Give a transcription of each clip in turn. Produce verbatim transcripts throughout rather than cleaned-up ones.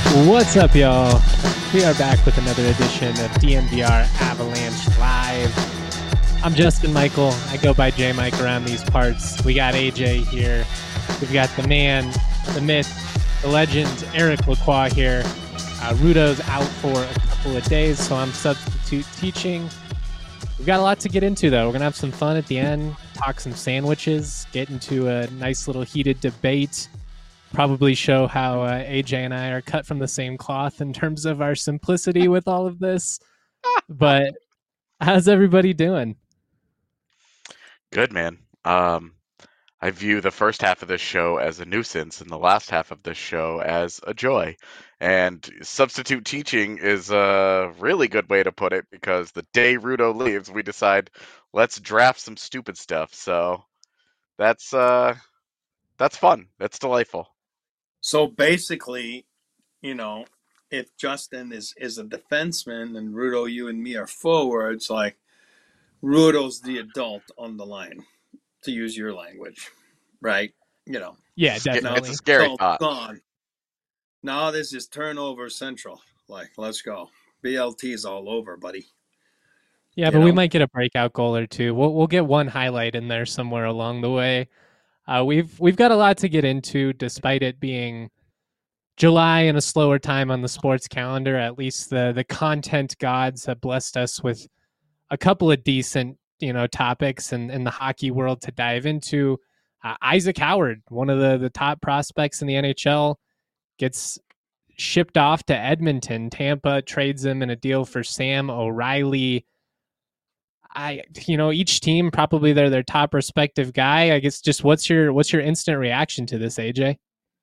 What's up, y'all? We are back with another edition of D N V R Avalanche Live. I'm Justin Michael. I go by J Mike around these parts. We got A J here. We've got the man, the myth, the legend, Eric Lacroix here. Uh, Rudo's out for a couple of days, so I'm substitute teaching. We've got a lot to get into, though. We're going to have some fun at the end, talk some sandwiches, get into a nice little heated debate. Probably show how uh, A J and I are cut from the same cloth in terms of our simplicity with all of this. But how's everybody doing? Good, man. Um, I view the first half of this show as a nuisance and the last half of this show as a joy. And substitute teaching is a really good way to put it because the day Rudo leaves, we decide let's draft some stupid stuff. So that's uh that's fun. That's delightful. So basically, you know, if Justin is is a defenseman and Rudo, you and me are forwards, like Rudo's the adult on the line, to use your language, right? You know, Yeah, It's a sca- it's definitely. a scary adult thought. gone. Now this is turnover central. Like, let's go. B L T's all over, buddy. Yeah, You but we know? might get a breakout goal or two. We'll we'll get one highlight in there somewhere along the way. Uh, we've we've got a lot to get into, despite it being July and a slower time on the sports calendar. At least the the content gods have blessed us with a couple of decent, you know, topics in, in the hockey world to dive into. Uh, Isaac Howard, one of the, the top prospects in the N H L, gets shipped off to Edmonton. Tampa trades him in a deal for Sam O'Reilly. I, you know, each team probably they're their top respective guy. I guess just what's your what's your instant reaction to this, A J?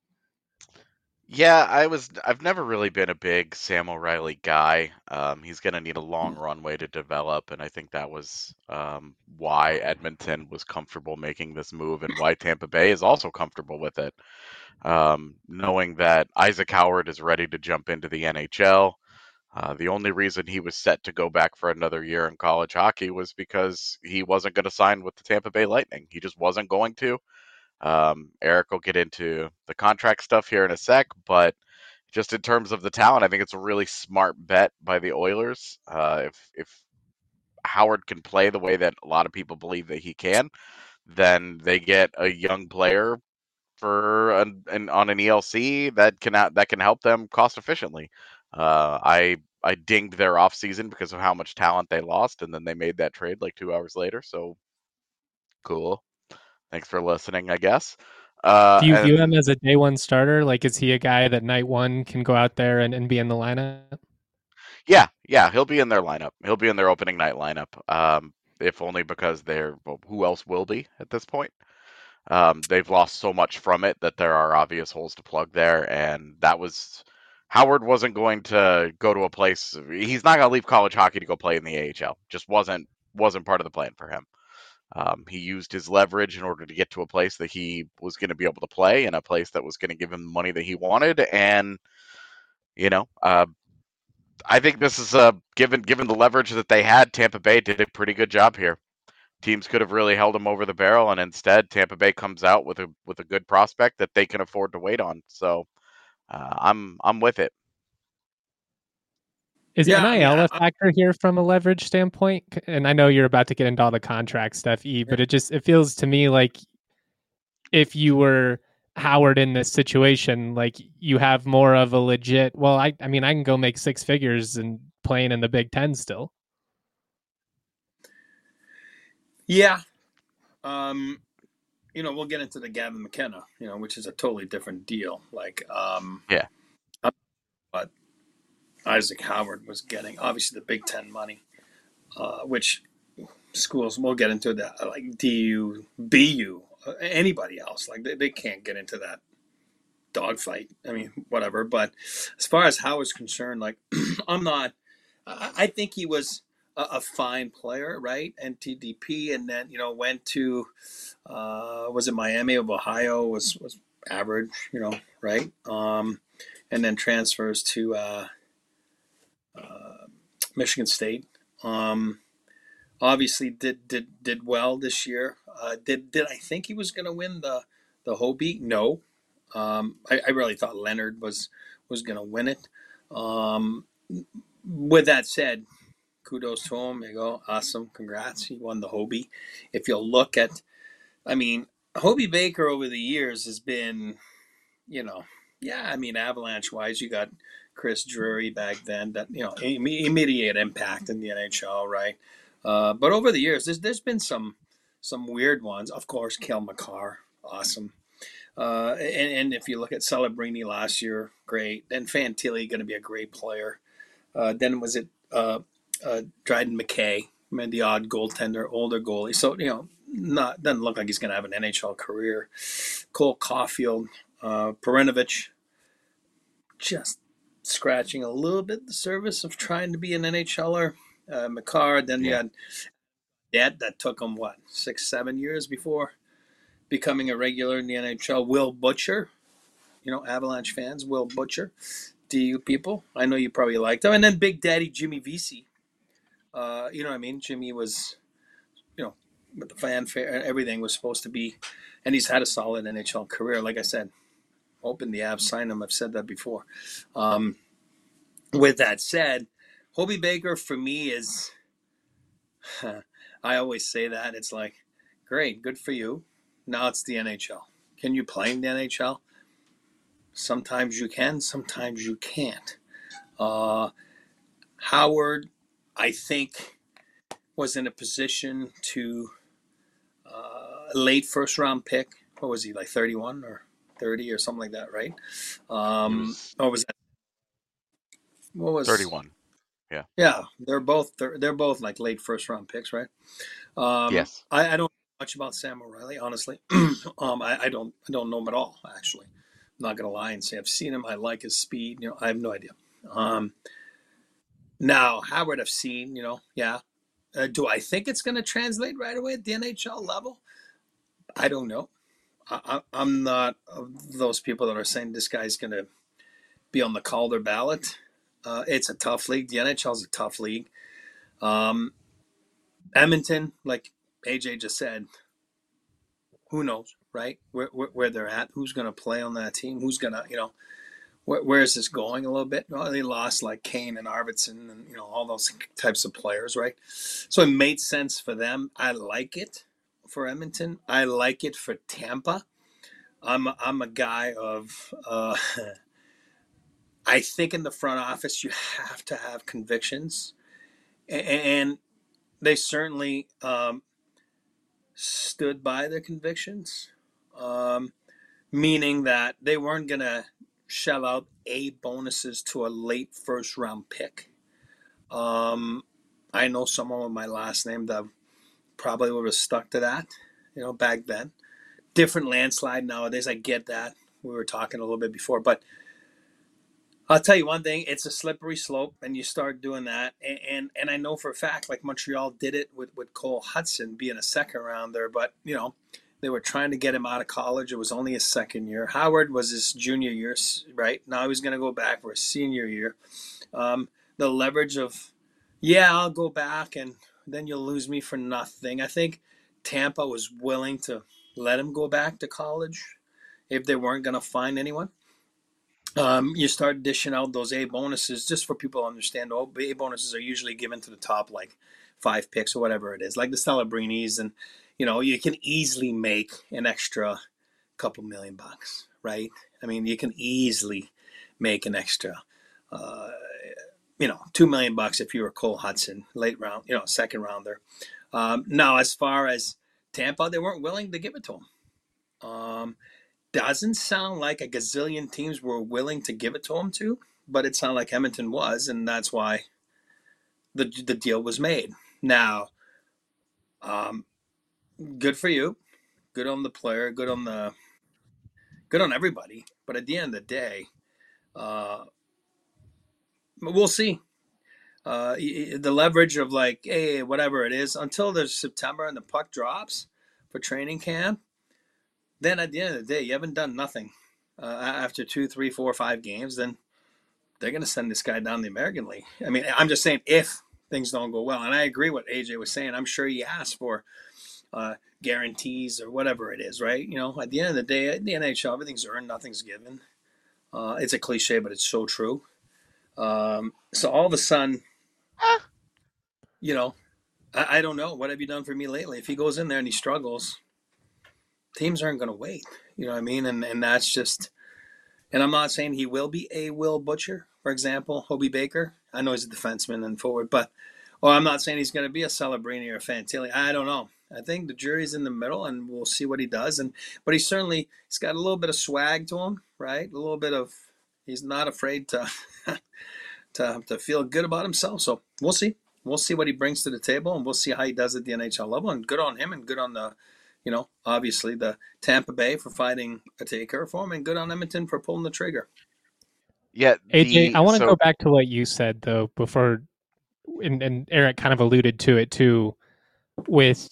Yeah, I was. I've never really been a big Sam O'Reilly guy. Um, he's going to need a long runway to develop, and I think that was um, why Edmonton was comfortable making this move, and why Tampa Bay is also comfortable with it, um, knowing that Isaac Howard is ready to jump into the N H L. Uh, the only reason he was set to go back for another year in college hockey was because he wasn't going to sign with the Tampa Bay Lightning. He just wasn't going to. Um, Eric will get into the contract stuff here in a sec, but just in terms of the talent, I think it's a really smart bet by the Oilers. Uh, if if Howard can play the way that a lot of people believe that he can, then they get a young player for an, an on an E L C that can that can help them cost efficiently. Uh, I I dinged their offseason because of how much talent they lost, and then they made that trade like two hours later. So cool. Thanks for listening, I guess. Uh, Do you view him and as a day one starter? Like, is he a guy that night one can go out there and, and be in the lineup? Yeah, yeah, he'll be in their lineup. He'll be in their opening night lineup. Um, if only because they're well, who else will be at this point? Um, they've lost so much from it that there are obvious holes to plug there, and that was Howard wasn't going to go to a place. He's not going to leave college hockey to go play in the A H L. Just wasn't wasn't part of the plan for him. Um, he used his leverage in order to get to a place that he was going to be able to play, and a place that was going to give him the money that he wanted. And you know, uh, I think this is uh, given given the leverage that they had, Tampa Bay did a pretty good job here. Teams could have really held him over the barrel, and instead Tampa Bay comes out with a with a good prospect that they can afford to wait on. So uh, I'm I'm with it. Is Yeah, I mean, N I L I, a I, factor here from a leverage standpoint? And I know you're about to get into all the contract stuff, E, yeah. but it just it feels to me like if you were Howard in this situation, like you have more of a legit. Well, I I mean I can go make six figures and playing in the Big Ten still. yeah. Um, you know, we'll get into the Gavin McKenna, you know, which is a totally different deal. Like, um, Yeah, but Isaac Howard was getting obviously the Big Ten money, uh, which schools we'll get into that like D U, B U, uh, anybody else like they, they can't get into that dogfight. I mean, whatever. But as far as Howard's concerned, like I'm not. I, I think he was a, a fine player, right? And T D P, and then you know went to uh, was it Miami of Ohio was was average, you know, right? Um, and then transfers to uh, uh, Michigan State. Um, obviously, did did did well this year. Uh, did did I think he was going to win the the Hobie? No. Um, I, I really thought Leonard was was going to win it. Um, with that said, kudos to him. There you go. Awesome. Congrats. He won the Hobie. If you look at, I mean, Hobie Baker over the years has been, you know, yeah, I mean, Avalanche wise, you got Chris Drury back then that, you know, immediate impact in the N H L, right? Uh, but over the years, there's, there's been some some weird ones. Of course, Cale Makar, awesome. Uh, and, and if you look at Celebrini last year, great. Then Fantilli, going to be a great player. Uh, then was it uh, uh, Dryden McKay, I mean, the odd goaltender, older goalie. So, you know, not doesn't look like he's going to have an N H L career. Cole Caulfield, uh, Perenovich, just scratching a little bit the surface of trying to be an NHLer. Uh, Makar, then yeah. you had Dad that took him, what, six, seven years before becoming a regular in the N H L. Will Butcher, you know, Avalanche fans, Will Butcher. Do you people? I know you probably liked him. And then Big Daddy Jimmy Vesey. Uh, you know what I mean? Jimmy was, you know, with the fanfare, everything was supposed to be, and he's had a solid N H L career. Like I said, hoping the Avs sign him. I've said that before. Um, with that said, Hobie Baker for me is, I always say that. It's like, great, good for you. Now it's the N H L. Can you play in the N H L? Sometimes you can, sometimes you can't. Uh, Howard, I think, was in a position to uh, late first round pick. What was he, like thirty-one or thirty or something like that, right? Um, was, or was that? What was thirty-one? Yeah. Yeah, they're both they're both like late first round picks, right? Um, yes. I, I don't know much about Sam O'Reilly, honestly. um, I, I don't I don't know him at all, actually. I'm not gonna lie and say I've seen him. I like his speed. You know, I have no idea. Um, now Howard, I've seen. You know, yeah. Uh, do I think it's gonna translate right away at the N H L level? I don't know. I, I, I'm not of those people that are saying this guy's gonna be on the Calder ballot. Uh, it's a tough league. The N H L is a tough league. Um, Edmonton, like A J just said, who knows, right? Where, where, where they're at, who's going to play on that team, who's going to, you know, where, where is this going a little bit? Well, they lost like Kane and Arvidsson and, you know, all those types of players, right? So it made sense for them. I like it for Edmonton. I like it for Tampa. I'm a, I'm a guy of, uh, I think in the front office you have to have convictions. And they certainly um, stood by their convictions, um, meaning that they weren't going to shell out A bonuses to a late first round pick. Um, I know someone with my last name that probably would have stuck to that, you know, back then. Different landslide nowadays. I get that. We were talking a little bit before, but I'll tell you one thing, it's a slippery slope, and you start doing that. And, and and I know for a fact, like Montreal did it with, with Cole Hudson being a second rounder, but, you know, they were trying to get him out of college. It was only his second year. Howard was his junior year, right? Now he was going to go back for his senior year. Um, the leverage of, yeah, I'll go back, and then you'll lose me for nothing. I think Tampa was willing to let him go back to college if they weren't going to find anyone. Um, you start dishing out those A bonuses just for people to understand. Oh, A bonuses are usually given to the top like five picks or whatever it is, like the Celebrinis, and you know you can easily make an extra couple million bucks, right? I mean, you can easily make an extra, uh, you know, two million bucks if you were Cole Hudson, late round, you know, second rounder. Um, now, as far as Tampa, they weren't willing to give it to him. Um, Doesn't sound like a gazillion teams were willing to give it to him to, but it sounded like Edmonton was, and that's why the the deal was made. Now, um, good for you, good on the player, good on the, good on everybody. But at the end of the day, uh, we'll see. Uh, the leverage of like, hey, whatever it is, until there's September and the puck drops for training camp. Then at the end of the day, you haven't done nothing uh, after two, three, four, five games. Then they're going to send this guy down the American League. I mean, I'm just saying if things don't go well. And I agree with A J was saying. I'm sure he asked for uh, guarantees or whatever it is, right? You know, at the end of the day, at the N H L, everything's earned, nothing's given. Uh, it's a cliche, but it's so true. Um, so all of a sudden, Eh, you know, I, I don't know. What have you done for me lately? If he goes in there and he struggles, teams aren't going to wait. You know what I mean? And and that's just. And I'm not saying he will be a Will Butcher, for example, Hobie Baker. I know he's a defenseman and forward, but or I'm not saying he's going to be a Celebrini or a Fantilli. I don't know. I think the jury's in the middle, and we'll see what he does. And but he certainly he's got a little bit of swag to him, right? A little bit of he's not afraid to to to feel good about himself. So we'll see. We'll see what he brings to the table, and we'll see how he does at the N H L level. And good on him, and good on the, you know, obviously the Tampa Bay for finding a taker for him, and good on Edmonton for pulling the trigger. Yeah, A J, the I want to so go back to what you said though before, and, and Eric kind of alluded to it too. With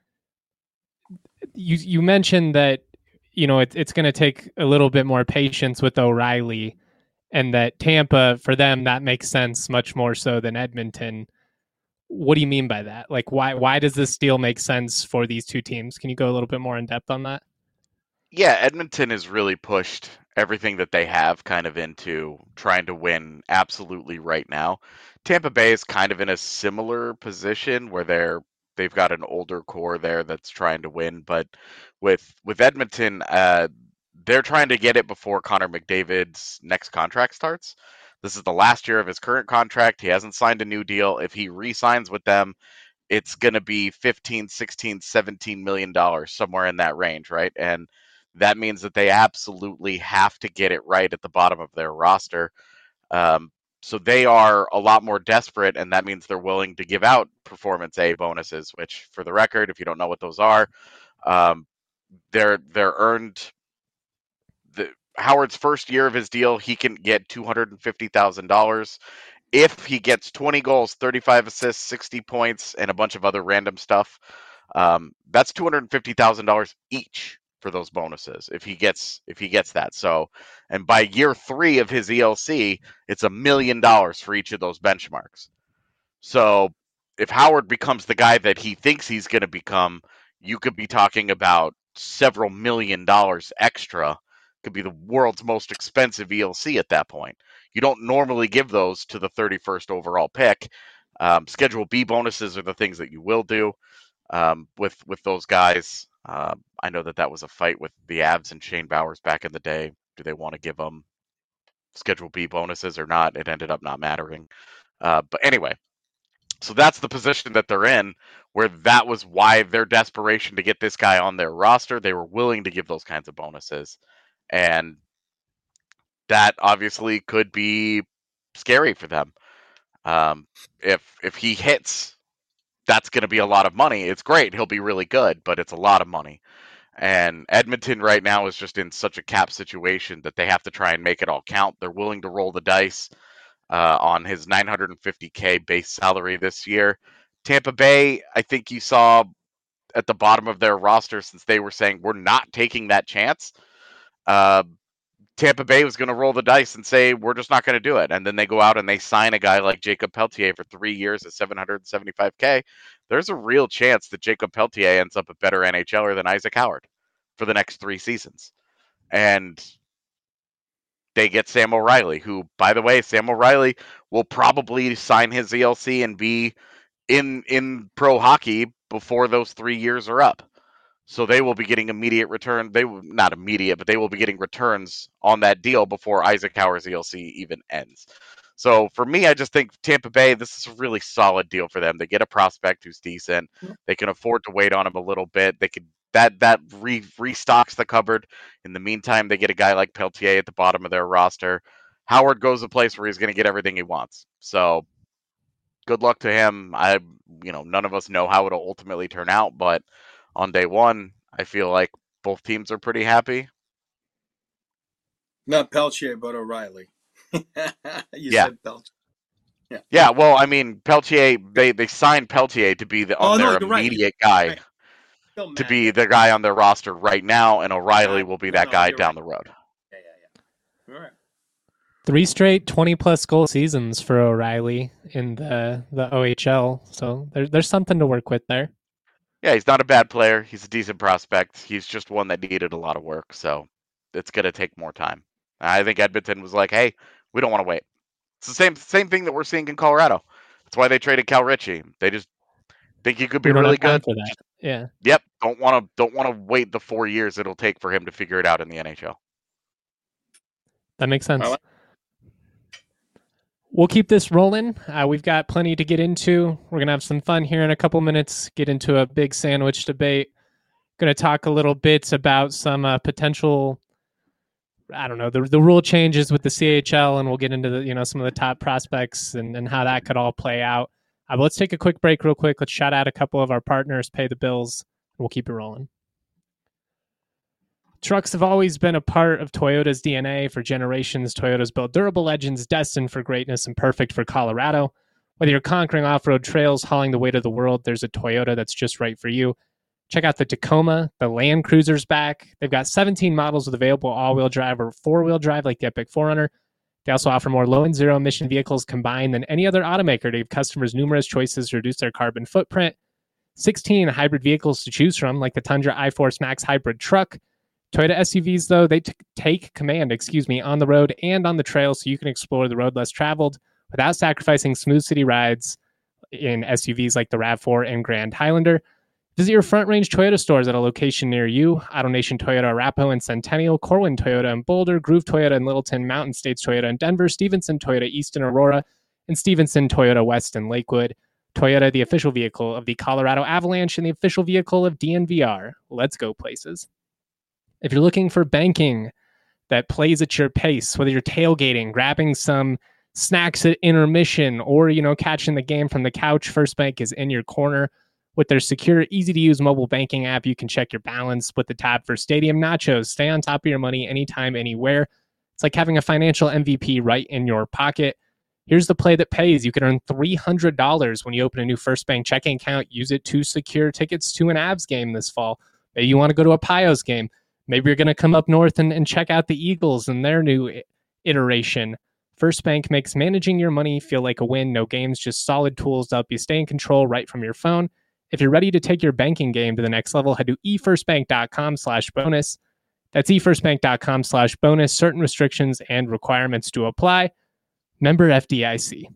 you, you mentioned that you know it, it's going to take a little bit more patience with O'Reilly, and that Tampa for them that makes sense much more so than Edmonton. What do you mean by that? Like, why why does this deal make sense for these two teams? Can you go a little bit more in depth on that? yeah, Edmonton has really pushed everything that they have kind of into trying to win absolutely right now. Tampa Bay is kind of in a similar position where they're they've got an older core there that's trying to win, but with with Edmonton, uh, they're trying to get it before Connor McDavid's next contract starts. This is the last year of his current contract. He hasn't signed a new deal. If he re-signs with them, it's going to be fifteen, sixteen, seventeen million dollars, somewhere in that range, right? And that means that they absolutely have to get it right at the bottom of their roster. Um, so they are a lot more desperate, and that means they're willing to give out performance A bonuses, which, for the record, if you don't know what those are, um, they're they're earned. The Howard's first year of his deal, he can get two hundred fifty thousand dollars if he gets twenty goals, thirty-five assists, sixty points, and a bunch of other random stuff. Um, that's two hundred fifty thousand dollars each for those bonuses if he gets if he gets that. So, and by year three of his E L C, it's a million dollars for each of those benchmarks. So, if Howard becomes the guy that he thinks he's going to become, you could be talking about several million dollars extra. Could be the world's most expensive E L C at that point. You don't normally give those to the thirty-first overall pick. Um, Schedule B bonuses are the things that you will do um, with with those guys. Uh, I know that that was a fight with the Avs and Shane Bowers back in the day. Do they want to give them Schedule B bonuses or not? It ended up not mattering. Uh, but anyway, so that's the position that they're in, where that was why their desperation to get this guy on their roster. They were willing to give those kinds of bonuses, and that obviously could be scary for them. Um, if if he hits, that's going to be a lot of money. It's great; he'll be really good, but it's a lot of money. And Edmonton right now is just in such a cap situation that they have to try and make it all count. They're willing to roll the dice uh, on his nine hundred fifty K base salary this year. Tampa Bay, I think you saw at the bottom of their roster, since they were saying we're not taking that chance. Uh, Tampa Bay was going to roll the dice and say we're just not going to do it, and then they go out and they sign a guy like Jacob Peltier for three years at seven hundred seventy-five K. There's a real chance that Jacob Peltier ends up a better NHLer than Isaac Howard for the next three seasons, and they get Sam O'Reilly, who, by the way, Sam O'Reilly will probably sign his E L C and be in in pro hockey before those three years are up. So they will be getting immediate return. They will not immediate, but they will be getting returns on that deal before Isaac Howard's E L C even ends. So for me, I just think Tampa Bay, this is a really solid deal for them. They get a prospect who's decent. They can afford to wait on him a little bit. They could that that re, restocks the cupboard. In the meantime, they get a guy like Peltier at the bottom of their roster. Howard goes a place where he's going to get everything he wants. So good luck to him. I, you know, none of us know how it'll ultimately turn out, but on day one, I feel like both teams are pretty happy. Not Peltier, but O'Reilly. you yeah. said Peltier. Yeah. Yeah. Well, I mean, Peltier. They they signed Peltier to be the on oh, their no, immediate right. guy, right. to be the guy on their roster right now, and O'Reilly will be that no, guy down right. the road. Yeah, yeah, yeah. All right. Three straight twenty-plus goal seasons for O'Reilly in the, the O H L, so there, there's something to work with there. Yeah, he's not a bad player. He's a decent prospect. He's just one that needed a lot of work, so it's going to take more time. I think Edmonton was like, hey, we don't want to wait. It's the same same thing that we're seeing in Colorado. That's why they traded Cal Ritchie. They just think he could be We don't really have time good. for that. Yeah. Yep. Don't want to don't want to wait the four years it'll take for him to figure it out in the N H L. That makes sense. Like- We'll keep this rolling. Uh, we've got plenty to get into. We're going to have some fun here in a couple minutes, get into a big sandwich debate. Going to talk a little bit about some uh, potential, I don't know, the the rule changes with the C H L, and we'll get into the, you know, some of the top prospects and, and how that could all play out. Uh, but let's take a quick break real quick. Let's shout out a couple of our partners, pay the bills, and we'll keep it rolling. Trucks have always been a part of Toyota's D N A for generations. Toyota's built durable legends destined for greatness and perfect for Colorado. Whether you're conquering off-road trails, hauling the weight of the world, there's a Toyota that's just right for you. Check out the Tacoma, the Land Cruiser's back. They've got seventeen models with available all-wheel drive or four-wheel drive like the Epic four runner. They also offer more low and zero-emission vehicles combined than any other automaker to give customers numerous choices to reduce their carbon footprint. sixteen hybrid vehicles to choose from like the Tundra iForce Max hybrid truck. Toyota S U Vs, though, they t- take command, excuse me, on the road and on the trail so you can explore the road less traveled without sacrificing smooth city rides in S U Vs like the RAV four and Grand Highlander. Visit your Front Range Toyota stores at a location near you. AutoNation Toyota Arapahoe and Centennial, Corwin Toyota in Boulder, Groove Toyota in Littleton, Mountain States Toyota in Denver, Stevenson Toyota East in Aurora, and Stevenson Toyota West in Lakewood. Toyota, the official vehicle of the Colorado Avalanche and the official vehicle of D N V R. Let's go places. If you're looking for banking that plays at your pace, whether you're tailgating, grabbing some snacks at intermission, or, you know, catching the game from the couch, First Bank is in your corner. With their secure, easy-to-use mobile banking app, you can check your balance with the tab for Stadium Nachos. Stay on top of your money anytime, anywhere. It's like having a financial M V P right in your pocket. Here's the play that pays. You can earn three hundred dollars when you open a new First Bank checking account. Use it to secure tickets to an Avs game this fall. Maybe you want to go to a Pios game. Maybe you're going to come up north and, and check out the Eagles and their new iteration. First Bank makes managing your money feel like a win. No games, just solid tools to help you stay in control right from your phone. If you're ready to take your banking game to the next level, head to efirstbank.com slash bonus. That's efirstbank.com slash bonus. Certain restrictions and requirements to apply. Member F D I C.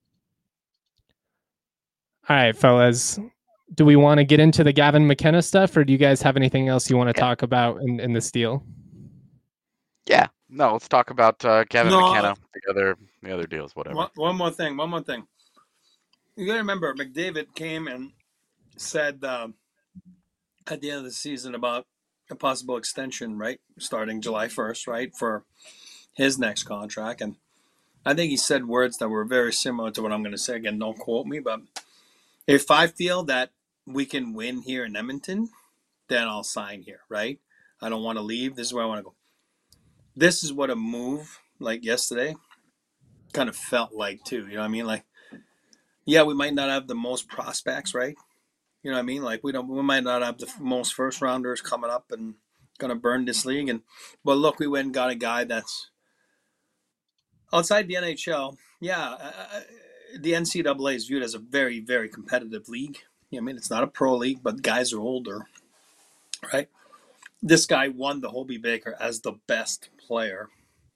All right, fellas. Do we want to get into the Gavin McKenna stuff, or do you guys have anything else you want to talk about in, in this deal? Yeah. No, let's talk about uh, Gavin No, McKenna, the other the other deals, whatever. One, one more thing. One more thing. You got to remember, McDavid came and said uh, at the end of the season about a possible extension, right, starting July first, right, for his next contract. And I think he said words that were very similar to what I'm going to say. Again, don't quote me, but if I feel that we can win here in Edmonton, then I'll sign here, right? I don't want to leave. This is where I want to go. This is what a move like yesterday kind of felt like too. You know what I mean? Like, yeah, we might not have the most prospects, right? You know what I mean? Like we don't, we might not have the most first rounders coming up and gonna burn this league. And but look, we went and got a guy that's outside the N H L. Yeah, uh, the N C double A is viewed as a very, very competitive league. You know, I mean, it's not a pro league, but guys are older, right? This guy won the Hobey Baker as the best player.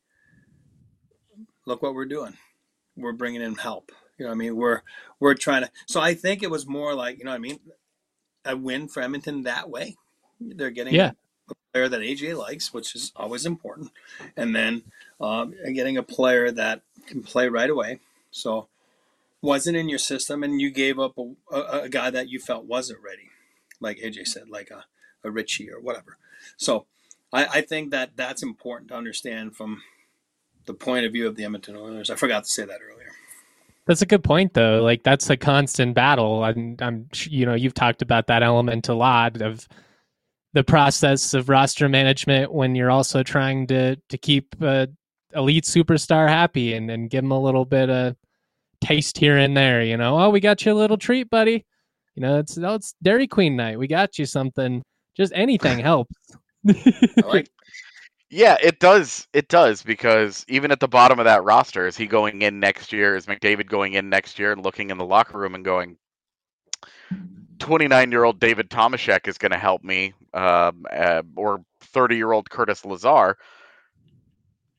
Look what we're doing. We're bringing in help. You know what I mean? We're we're trying to. So I think it was more like, you know what I mean, a win for Edmonton that way. They're getting yeah. a player that A J likes, which is always important, and then um, getting a player that can play right away. So wasn't in your system, and you gave up a, a, a guy that you felt wasn't ready, like A J said, like a, a Ritchie or whatever. So I, I think that that's important to understand from the point of view of the Edmonton Oilers. I forgot to say that earlier. That's a good point, though. Like, that's a constant battle. I'm, I'm, you know, you've talked about that element a lot of the process of roster management when you're also trying to to keep a elite superstar happy and, and give them a little bit of taste here and there. You know, oh, we got you a little treat, buddy. You know, it's oh, it's Dairy Queen night. We got you something. Just anything helps. Like, yeah, it does. It does, because even at the bottom of that roster, is he going in next year? Is McDavid going in next year and looking in the locker room and going, twenty-nine-year-old David Tomashek is going to help me, um, uh, or thirty-year-old Curtis Lazar?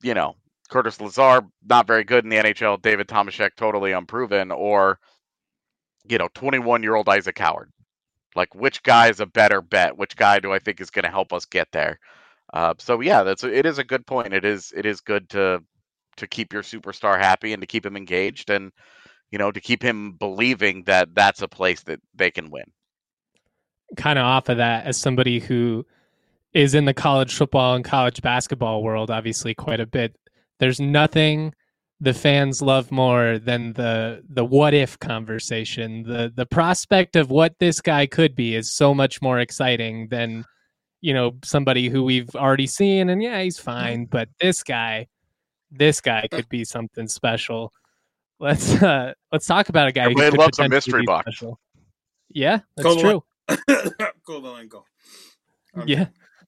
you know, Curtis Lazar, not very good in the N H L, David Tomashek, totally unproven, or, you know, twenty-one-year-old Isaac Howard. Like, which guy is a better bet? Which guy do I think is going to help us get there? Uh, so yeah, that's a, it is a good point. It is it is good to to keep your superstar happy and to keep him engaged, and you know, to keep him believing that that's a place that they can win. Kind of off of that, as somebody who is in the college football and college basketball world, obviously quite a bit, there's nothing the fans love more than the the what if conversation. The the prospect of what this guy could be is so much more exciting than, you know, somebody who we've already seen and yeah, he's fine, but this guy, this guy could be something special. Let's uh let's talk about a guy Everybody who could loves a potentially mystery be box. special. Yeah, that's Go true. Kovalenko. I'm Yeah.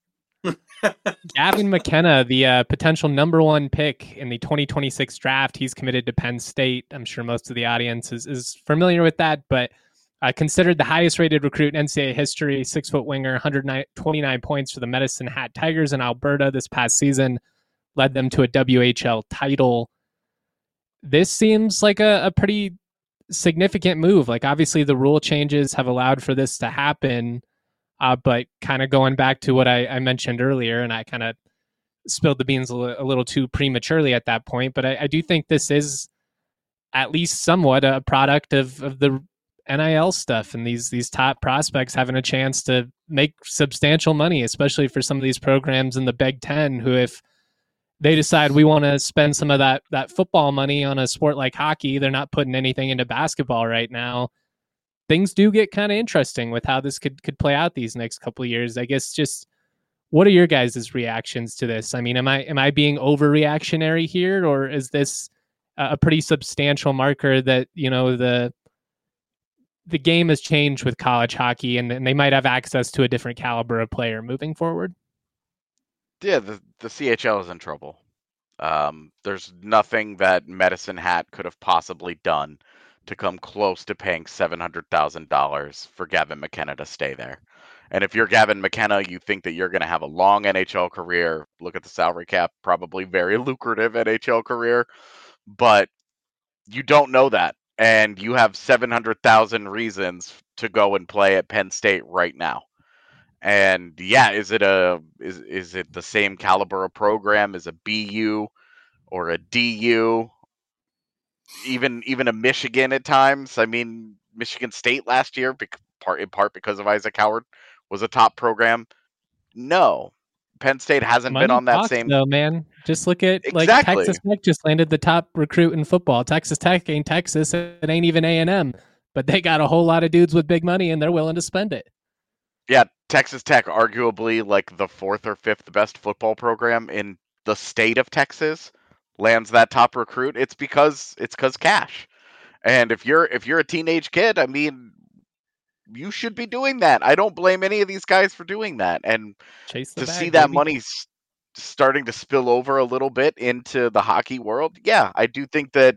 Gavin McKenna, the uh, potential number one pick in the twenty twenty-six draft, he's committed to Penn State. I'm sure most of the audience is, is familiar with that, but uh, considered the highest rated recruit in N C double A history, six foot winger, one hundred twenty-nine points for the Medicine Hat Tigers in Alberta this past season, led them to a W H L title. This seems like a, a pretty significant move. Like, obviously, the rule changes have allowed for this to happen. Uh, but kind of going back to what I, I mentioned earlier, and I kind of spilled the beans a, l- a little too prematurely at that point, but I, I do think this is at least somewhat a product of, of the N I L stuff and these these top prospects having a chance to make substantial money, especially for some of these programs in the Big Ten who, if they decide we want to spend some of that that football money on a sport like hockey, they're not putting anything into basketball right now. Things do get kind of interesting with how this could could play out these next couple of years. I guess just what are your guys' reactions to this? I mean, am I am I being overreactionary here, or is this a pretty substantial marker that, you know, the the game has changed with college hockey and, and they might have access to a different caliber of player moving forward? Yeah, the the C H L is in trouble. Um, there's nothing that Medicine Hat could have possibly done to come close to paying seven hundred thousand dollars for Gavin McKenna to stay there. And if you're Gavin McKenna, you think that you're going to have a long N H L career. Look at the salary cap, probably very lucrative N H L career, but you don't know that. And you have seven hundred thousand reasons to go and play at Penn State right now. And yeah, is it a is is it the same caliber of program as a B U or a D U? Even even a Michigan at times. I mean, Michigan State last year, bec- part in part because of Isaac Howard, was a top program. No, Penn State hasn't been Money on that talks, same. though, man. Just look at like Exactly. Texas Tech just landed the top recruit in football. Texas Tech ain't Texas. It ain't even A and M, but they got a whole lot of dudes with big money and they're willing to spend it. Yeah, Texas Tech, arguably like the fourth or fifth best football program in the state of Texas, lands that top recruit. It's because it's because cash. And if you're if you're a teenage kid, I mean, you should be doing that. I don't blame any of these guys for doing that. And Chase the to bag, see that baby. money s- starting to spill over a little bit into the hockey world, yeah, I do think that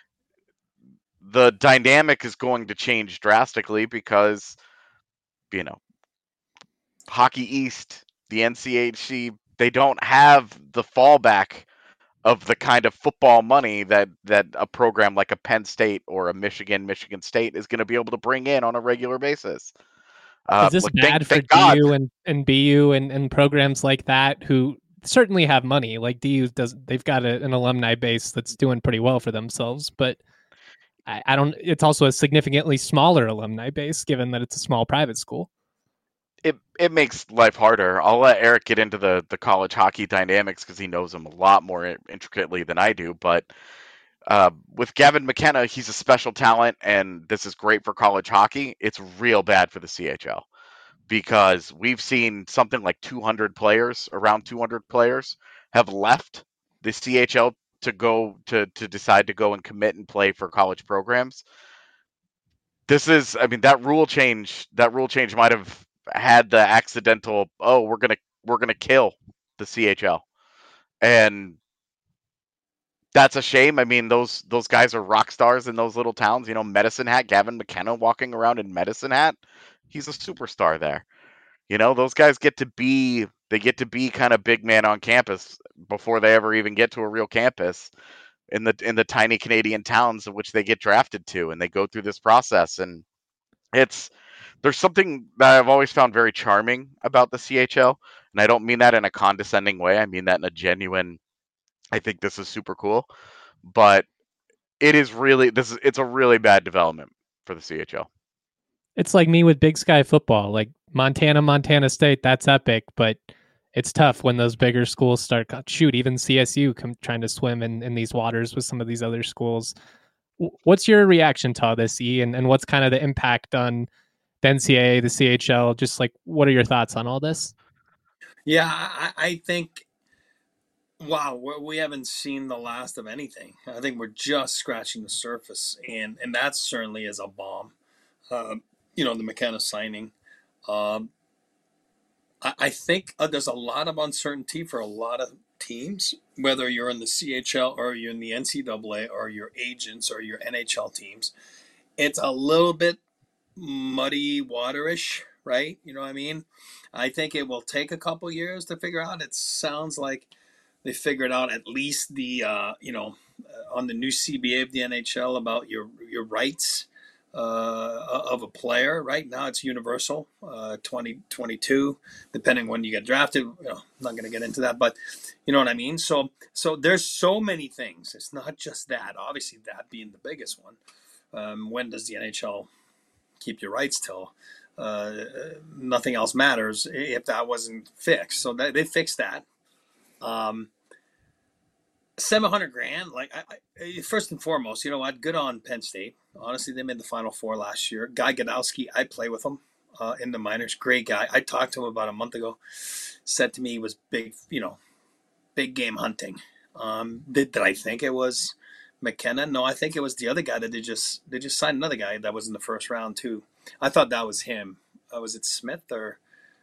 the dynamic is going to change drastically because, you know, Hockey East, the N C H C, they don't have the fallback of the kind of football money that that a program like a Penn State or a Michigan, Michigan State is going to be able to bring in on a regular basis. Uh, Is this look, thank bad for thank God. D U and, and B U and, and programs like that who certainly have money? Like D U does, they've got a, an alumni base that's doing pretty well for themselves, but I, I don't. It's also a significantly smaller alumni base, given that it's a small private school. It it makes life harder. I'll let Eric get into the the college hockey dynamics because he knows them a lot more intricately than I do. But uh, with Gavin McKenna, he's a special talent, and this is great for college hockey. It's real bad for the C H L because we've seen something like two hundred players, around two hundred players, have left the C H L to go to to decide to go and commit and play for college programs. This is, I mean, that rule change. That rule change might have had the accidental. Oh, we're gonna we're gonna kill the C H L, and that's a shame. I mean, those those guys are rock stars in those little towns. You know, Medicine Hat, Gavin McKenna walking around in Medicine Hat, he's a superstar there. You know, those guys get to be They get to be kind of big man on campus before they ever even get to a real campus in the in the tiny Canadian towns of which they get drafted to, and they go through this process. And it's there's something that I've always found very charming about the C H L, and I don't mean that in a condescending way. I mean that in a genuine, I think this is super cool, but it is really this is it's a really bad development for the C H L. It's like me with Big Sky football, like Montana, Montana State. That's epic, but it's tough when those bigger schools start. Shoot, even C S U come trying to swim in, in these waters with some of these other schools. What's your reaction to all this, E, and, and what's kind of the impact on the N C double A, the C H L? Just like, what are your thoughts on all this? Yeah, I, I think, wow, we're, we haven't seen the last of anything. I think we're just scratching the surface, and, and that certainly is a bomb. Uh, you know, the McKenna signing. Um, I, I think uh, there's a lot of uncertainty for a lot of teams, whether you're in the C H L or you're in the N C double A or your agents or your N H L teams. It's a little bit muddy waterish, right? You know what I mean? I think it will take a couple years to figure out. It sounds like they figured out at least the, uh, you know, uh, on the new C B A of the N H L about your your rights uh, of a player. Right now it's universal, uh, twenty twenty-two, depending when you get drafted. You know, I'm not going to get into that, but you know what I mean? So, so there's so many things. It's not just that. Obviously, that being the biggest one. Um, when does the N H L keep your rights till uh, nothing else matters if that wasn't fixed? So that, they fixed that. Um, seven hundred grand. Like I, I, first and foremost, you know what? Good on Penn State. Honestly, they made the Final Four last year. Guy Gadowski, I play with him uh, in the minors. Great guy. I talked to him about a month ago. Said to me he was big, you know, big game hunting. Um, did, did I think it was McKenna? No, I think it was the other guy that they just they just signed another guy that was in the first round too. I thought that was him. Uh, was it Smith or?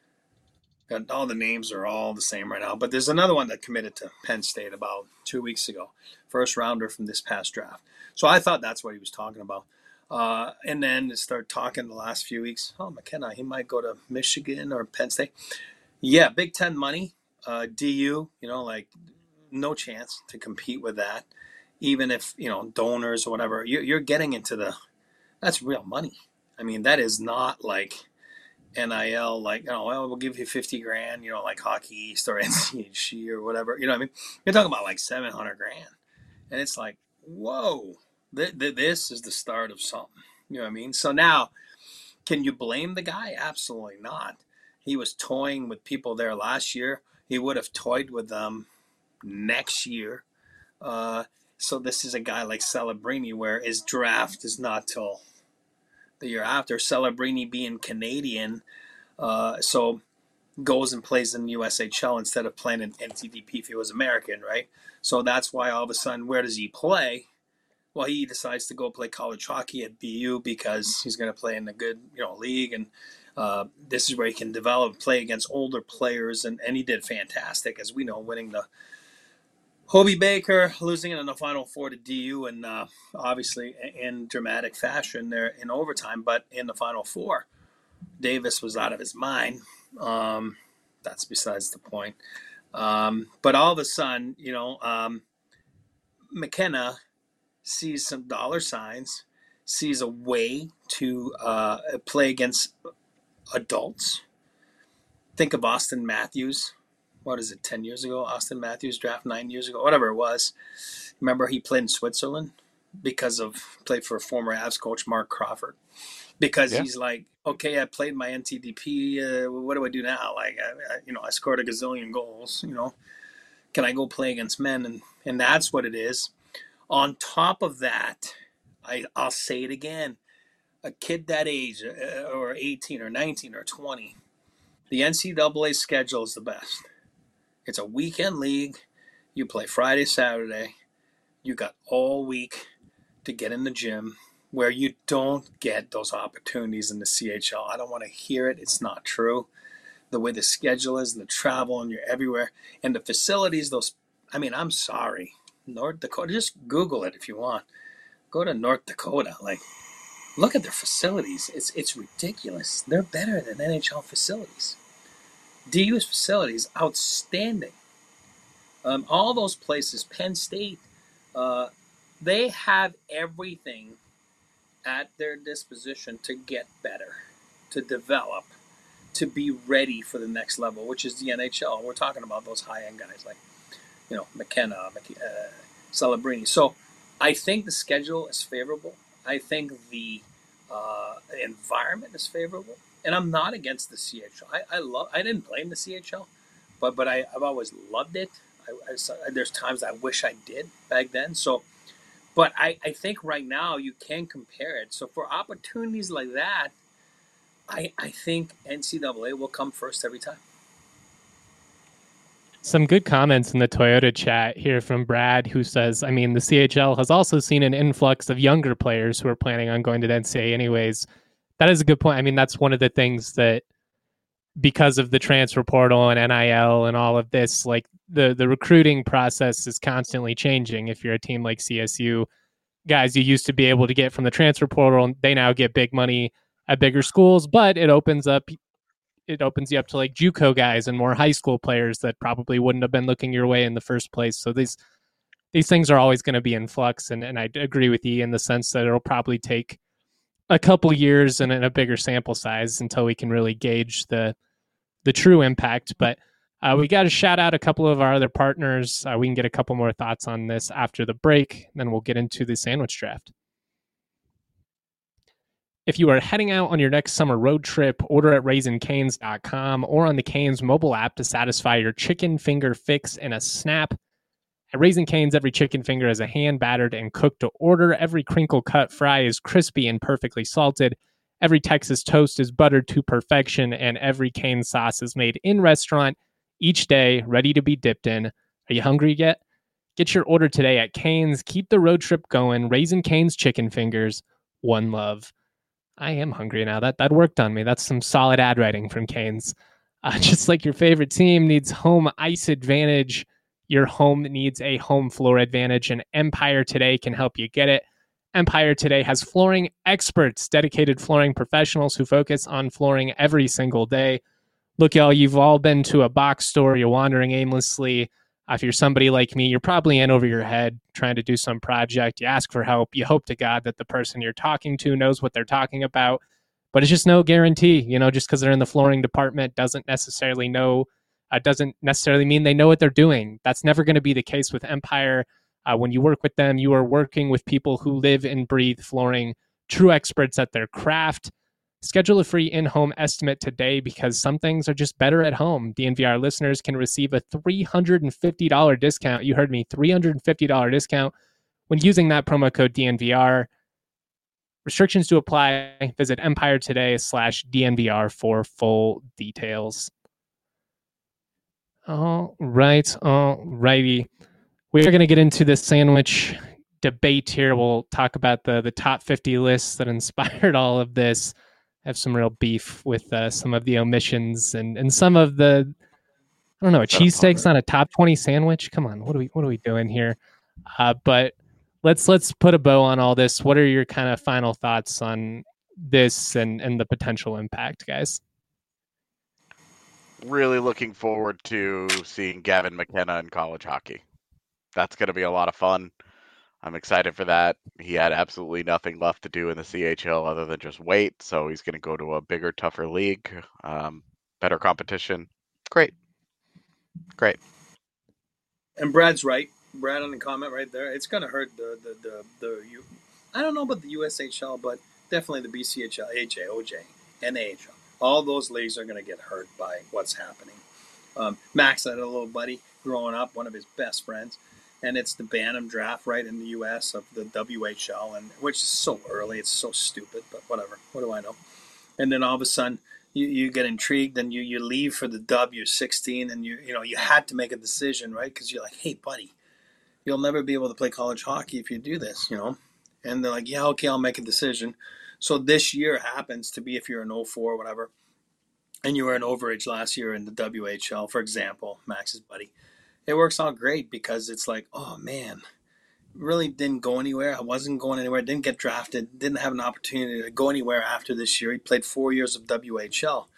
All the names are all the same right now, but there's another one that committed to Penn State about two weeks ago, first rounder from this past draft. So I thought that's what he was talking about. Uh, and then start talking the last few weeks. Oh, McKenna, he might go to Michigan or Penn State. Yeah, Big Ten money, uh, D U. You know, like no chance to compete with that. Even if you know donors or whatever, you're, you're getting into the that's real money. I mean, that is not like N I L, like, oh, well, we'll give you fifty grand, you know, like Hockey East or N C H C or whatever. You know what I mean? You're talking about like seven hundred grand. And it's like, whoa, th- th- this is the start of something. You know what I mean? So now, can you blame the guy? Absolutely not. He was toying with people there last year. He would have toyed with them next year. Uh, so this is a guy like Celebrini where his draft is not till the year after. Celebrini being Canadian, uh, so goes and plays in U S H L instead of playing in N T D P if he was American, right? So that's why all of a sudden, where does he play? Well, he decides to go play college hockey at B U because he's going to play in a good, you know, league, and uh, this is where he can develop, play against older players, and, and he did fantastic, as we know, winning the Hobey Baker, losing it in the Final Four to D U, and uh, obviously in dramatic fashion there in overtime. But in the Final Four, Davis was out of his mind. Um, that's besides the point. Um, but all of a sudden, you know, um, McKenna sees some dollar signs, sees a way to uh, play against adults. Think of Austin Matthews. What is it, ten years ago? Austin Matthews draft nine years ago, whatever it was. Remember he played in Switzerland because of, played for former Avs coach Mark Crawford. Because yeah. He's like, okay, I played my N T D P. Uh, what do I do now? Like, I, I, you know, I scored a gazillion goals. You know, can I go play against men? And and that's what it is. On top of that, I I'll say it again. A kid that age, uh, or eighteen or nineteen or twenty, the N C double A schedule is the best. It's a weekend league. You play Friday, Saturday. You got all week to get in the gym, where you don't get those opportunities in the C H L. I don't want to hear it. It's not true. The way the schedule is and the travel, and you're everywhere. And the facilities, those, I mean, I'm sorry. North Dakota, just Google it if you want. Go to North Dakota. Like, look at their facilities. It's it's ridiculous. They're better than N H L facilities. D U's facility is outstanding. Um, all those places, Penn State, uh, they have everything at their disposition to get better, to develop, to be ready for the next level, which is the N H L. We're talking about those high-end guys like, you know, McKenna, uh, Celebrini. So I think the schedule is favorable. I think the uh, environment is favorable, and I'm not against the C H L. I, I love. I didn't blame the C H L, but but I, I've always loved it. I, I, there's times I wish I did back then. So, but I, I think right now you can compare it. So for opportunities like that, I I think N C double A will come first every time. Some good comments in the Toyota chat here from Brad, who says, I mean, the C H L has also seen an influx of younger players who are planning on going to the N C double A anyways. That is a good point. I mean, that's one of the things that, because of the transfer portal and N I L and all of this, like the, the recruiting process is constantly changing. If you're a team like C S U, guys you used to be able to get from the transfer portal, they now get big money at bigger schools, but it opens up it opens you up to like JUCO guys and more high school players that probably wouldn't have been looking your way in the first place. So these these things are always going to be in flux, and, and I agree with you in the sense that it'll probably take a couple years and a bigger sample size until we can really gauge the the true impact. But uh, we got to shout out a couple of our other partners. Uh, we can get a couple more thoughts on this after the break, and then we'll get into the sandwich draft. If you are heading out on your next summer road trip, order at Raising Cane's dot com or on the Cane's mobile app to satisfy your chicken finger fix in a snap. At Raising Cane's, every chicken finger is a hand-battered and cooked to order. Every crinkle-cut fry is crispy and perfectly salted. Every Texas toast is buttered to perfection, and every Cane's sauce is made in-restaurant each day, ready to be dipped in. Are you hungry yet? Get your order today at Cane's. Keep the road trip going. Raising Cane's chicken fingers. One love. I am hungry now. That that worked on me. That's some solid ad writing from Cane's. Uh, just like your favorite team needs home ice advantage, your home needs a home floor advantage, and Empire Today can help you get it. Empire Today has flooring experts, dedicated flooring professionals who focus on flooring every single day. Look, y'all, you've all been to a box store. You're wandering aimlessly. Uh, if you're somebody like me, you're probably in over your head trying to do some project. You ask for help. You hope to God that the person you're talking to knows what they're talking about. But it's just no guarantee. You know, just because they're in the flooring department doesn't necessarily know, uh, doesn't necessarily mean they know what they're doing. That's never going to be the case with Empire. Uh, when you work with them, you are working with people who live and breathe flooring, true experts at their craft. Schedule a free in-home estimate today because some things are just better at home. D N V R listeners can receive a three hundred fifty dollars discount. You heard me, three hundred fifty dollars discount when using that promo code D N V R. Restrictions to apply. Visit Empire Today slash D N V R for full details. All right, all righty. We're going to get into this sandwich debate here. We'll talk about the, the top fifty lists that inspired all of this. I have some real beef with uh, some of the omissions and, and some of the, I don't know, a cheesesteak's not a top twenty sandwich. Come on, what are we what are we doing here? Uh, but let's let's put a bow on all this. What are your kind of final thoughts on this and, and the potential impact, guys? Really looking forward to seeing Gavin McKenna in college hockey. That's going to be a lot of fun. I'm excited for that. He had absolutely nothing left to do in the C H L other than just wait, so he's going to go to a bigger, tougher league, um, better competition. Great. Great. And Brad's right. Brad on the comment right there. It's going to hurt the, the, the, the U, I don't know about the U S H L, but definitely the B C H L, A J, O J, and A H L. All those leagues are going to get hurt by what's happening. Um, Max had a little buddy growing up, one of his best friends. And it's the Bantam draft, right, in the U S of the W H L, and which is so early. It's so stupid, but whatever. What do I know? And then all of a sudden, you, you get intrigued, and you, you leave for the W sixteen, and you you know you had to make a decision, right? Because you're like, hey, buddy, you'll never be able to play college hockey if you do this, you know. And they're like, yeah, okay, I'll make a decision. So this year happens to be if you're an oh four or whatever, and you were an overage last year in the W H L, for example, Max's buddy. It works out great because it's like, oh man, really didn't go anywhere. I wasn't going anywhere. Didn't get drafted. Didn't have an opportunity to go anywhere after this year. He played four years of W H L.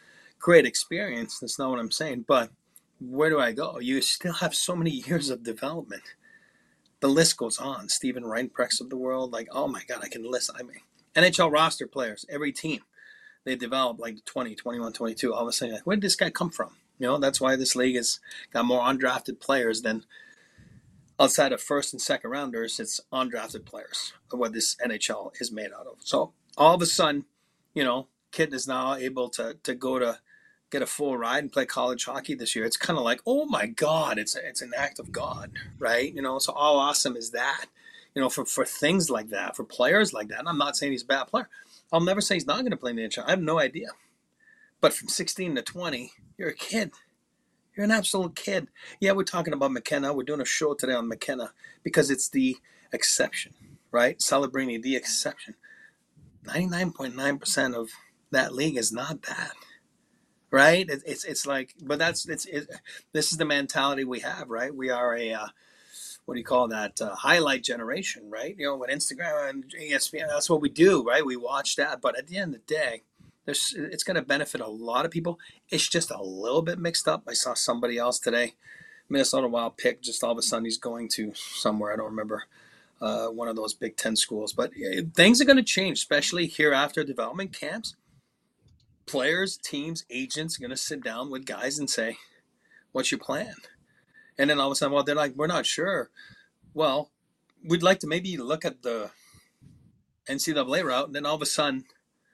great experience. That's not what I'm saying. But where do I go? You still have so many years of development. The list goes on. Steven Reinprechts of the world, like, oh my God, I can list. I mean, N H L roster players, every team, they develop like twenty, twenty-one, twenty-two. All of a sudden, like, where did this guy come from? You know, that's why this league has got more undrafted players than outside of first and second rounders. It's undrafted players of what this N H L is made out of. So all of a sudden, you know, kid is now able to to go to get a full ride and play college hockey this year. It's kind of like, oh my God, it's a, it's an act of God, right? You know, so how awesome is that? You know, for, for things like that, for players like that. And I'm not saying he's a bad player. I'll never say he's not going to play in the N H L. I have no idea. But from sixteen to twenty, you're a kid. You're an absolute kid. Yeah, we're talking about McKenna. We're doing a show today on McKenna because it's the exception, right? Celebrating the exception. ninety-nine point nine percent of that league is not that, right? It, it's it's like, but that's it's it, this is the mentality we have, right? We are a uh, what do you call that? Uh, highlight generation, right? You know, with Instagram and E S P N, that's what we do, right? We watch that, but at the end of the day, there's it's going to benefit a lot of people. It's just a little bit mixed up. I saw somebody else today, Minnesota Wild pick. Just all of a sudden, he's going to somewhere I don't remember. Uh, one of those Big Ten schools. But things are going to change, especially here after development camps. Players, teams, agents are going to sit down with guys and say, what's your plan? And then all of a sudden, well, they're like, we're not sure. Well, we'd like to maybe look at the N C double A route. And then all of a sudden,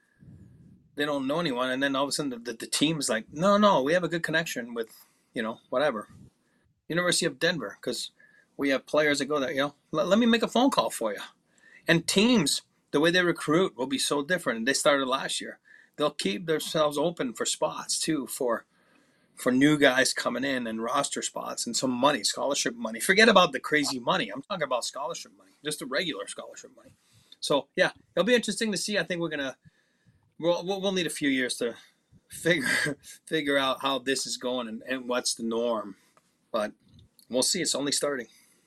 they don't know anyone. And then all of a sudden, the, the, the team is like, no, no, we have a good connection with, you know, whatever. University of Denver, because we have players that go there, you know, let, let me make a phone call for you. And teams, the way they recruit will be so different. And they started last year. They'll keep themselves open for spots too, for for new guys coming in and roster spots and some money, scholarship money. Forget about the crazy money. I'm talking about scholarship money, just the regular scholarship money. So yeah, it'll be interesting to see. I think we're gonna we'll we'll need a few years to figure figure out how this is going and, and what's the norm. But we'll see. It's only starting.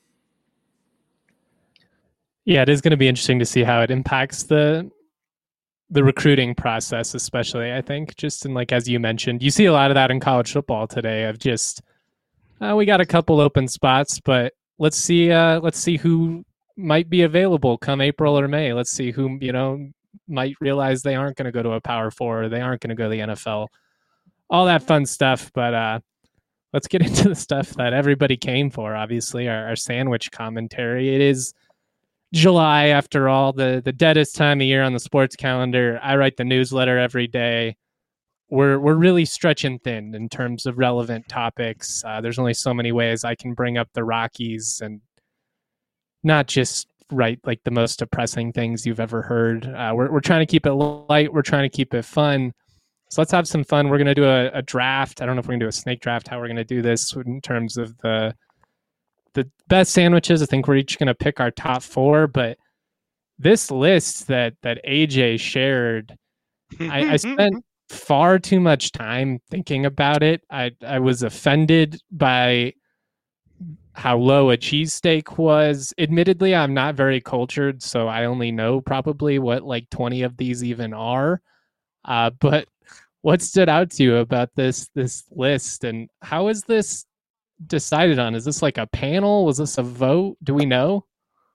Yeah, it is going to be interesting to see how it impacts the the recruiting process, especially, I think, just in, like, as you mentioned, you see a lot of that in college football today of just, uh, we got a couple open spots, but let's see, uh, let's see who might be available come April or May. Let's see who, you know, might realize they aren't going to go to a Power Four, or they aren't going to go to the N F L, all that fun stuff. But uh, let's get into the stuff that everybody came for, obviously, our, our sandwich commentary. It is July, after all, the, the deadest time of year on the sports calendar. I write the newsletter every day. We're we're really stretching thin in terms of relevant topics. Uh, there's only so many ways I can bring up the Rockies and not just write like the most depressing things you've ever heard. Uh, we're we're trying to keep it light. We're trying to keep it fun. So let's have some fun. We're going to do a, a draft. I don't know if we're going to do a snake draft, how we're going to do this in terms of the the best sandwiches. I think we're each going to pick our top four, but this list that, that A J shared, I, I spent far too much time thinking about it. I, I was offended by how low a cheesesteak was. Admittedly, I'm not very cultured, so I only know probably what like twenty of these even are. Uh, but what stood out to you about this, this list, and how is this decided on? Is this like a panel? Was this a vote? Do we know?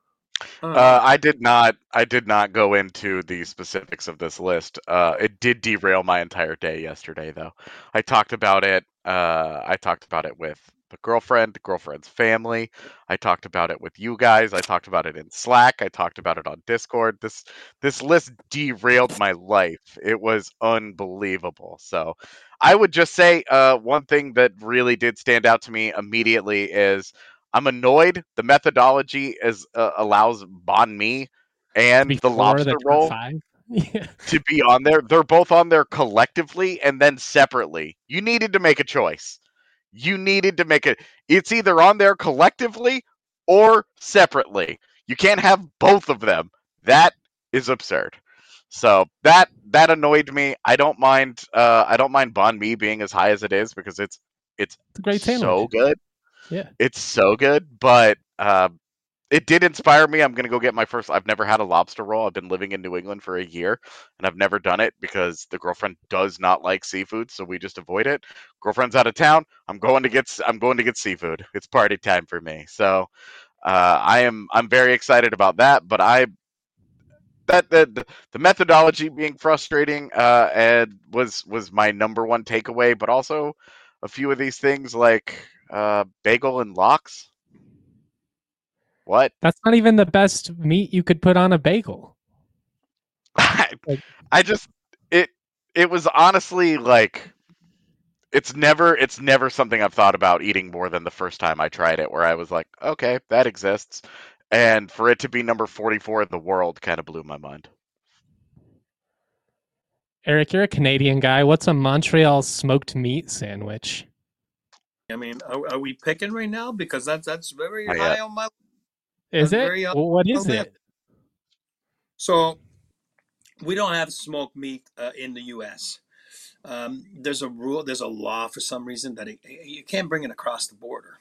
Uh, I did not. I did not go into the specifics of this list. Uh, it did derail my entire day yesterday, though. I talked about it. Uh, I talked about it with the girlfriend, the girlfriend's family. I talked about it with you guys. I talked about it in Slack. I talked about it on Discord. This this list derailed my life. It was unbelievable. So I would just say uh, one thing that really did stand out to me immediately is I'm annoyed. The methodology is uh, allows Banh Mi and the lobster the roll yeah. to be on there. They're both on there collectively and then separately. You needed to make a choice. You needed to make it. It's either on there collectively or separately. You can't have both of them. That is absurd. So that that annoyed me. I don't mind. Uh, I don't mind Banh Mi being as high as it is because it's it's, it's a great so sandwich. good. Yeah, it's so good. But uh, it did inspire me. I'm gonna go get my first. I've never had a lobster roll. I've been living in New England for a year, and I've never done it because the girlfriend does not like seafood, so we just avoid it. Girlfriend's out of town. I'm going to get. I'm going to get seafood. It's party time for me. So uh, I am. I'm very excited about that. But I that the the methodology being frustrating uh, and was was my number one takeaway. But also a few of these things like uh, bagel and lox. What? That's not even the best meat you could put on a bagel. I, Like- I just it it was honestly like it's never it's never something I've thought about eating more than the first time I tried it, where I was like, okay, that exists. And for it to be number forty-four in the world kind of blew my mind. Eric, you're a Canadian guy. What's a Montreal smoked meat sandwich? I mean, are, are we picking right now? Because that's that's very Not high yet. on my. Is That's it? very, uh, Well, what is on my- it? So we don't have smoked meat uh, in the U S. Um, there's a rule, there's a law for some reason that it, you can't bring it across the border.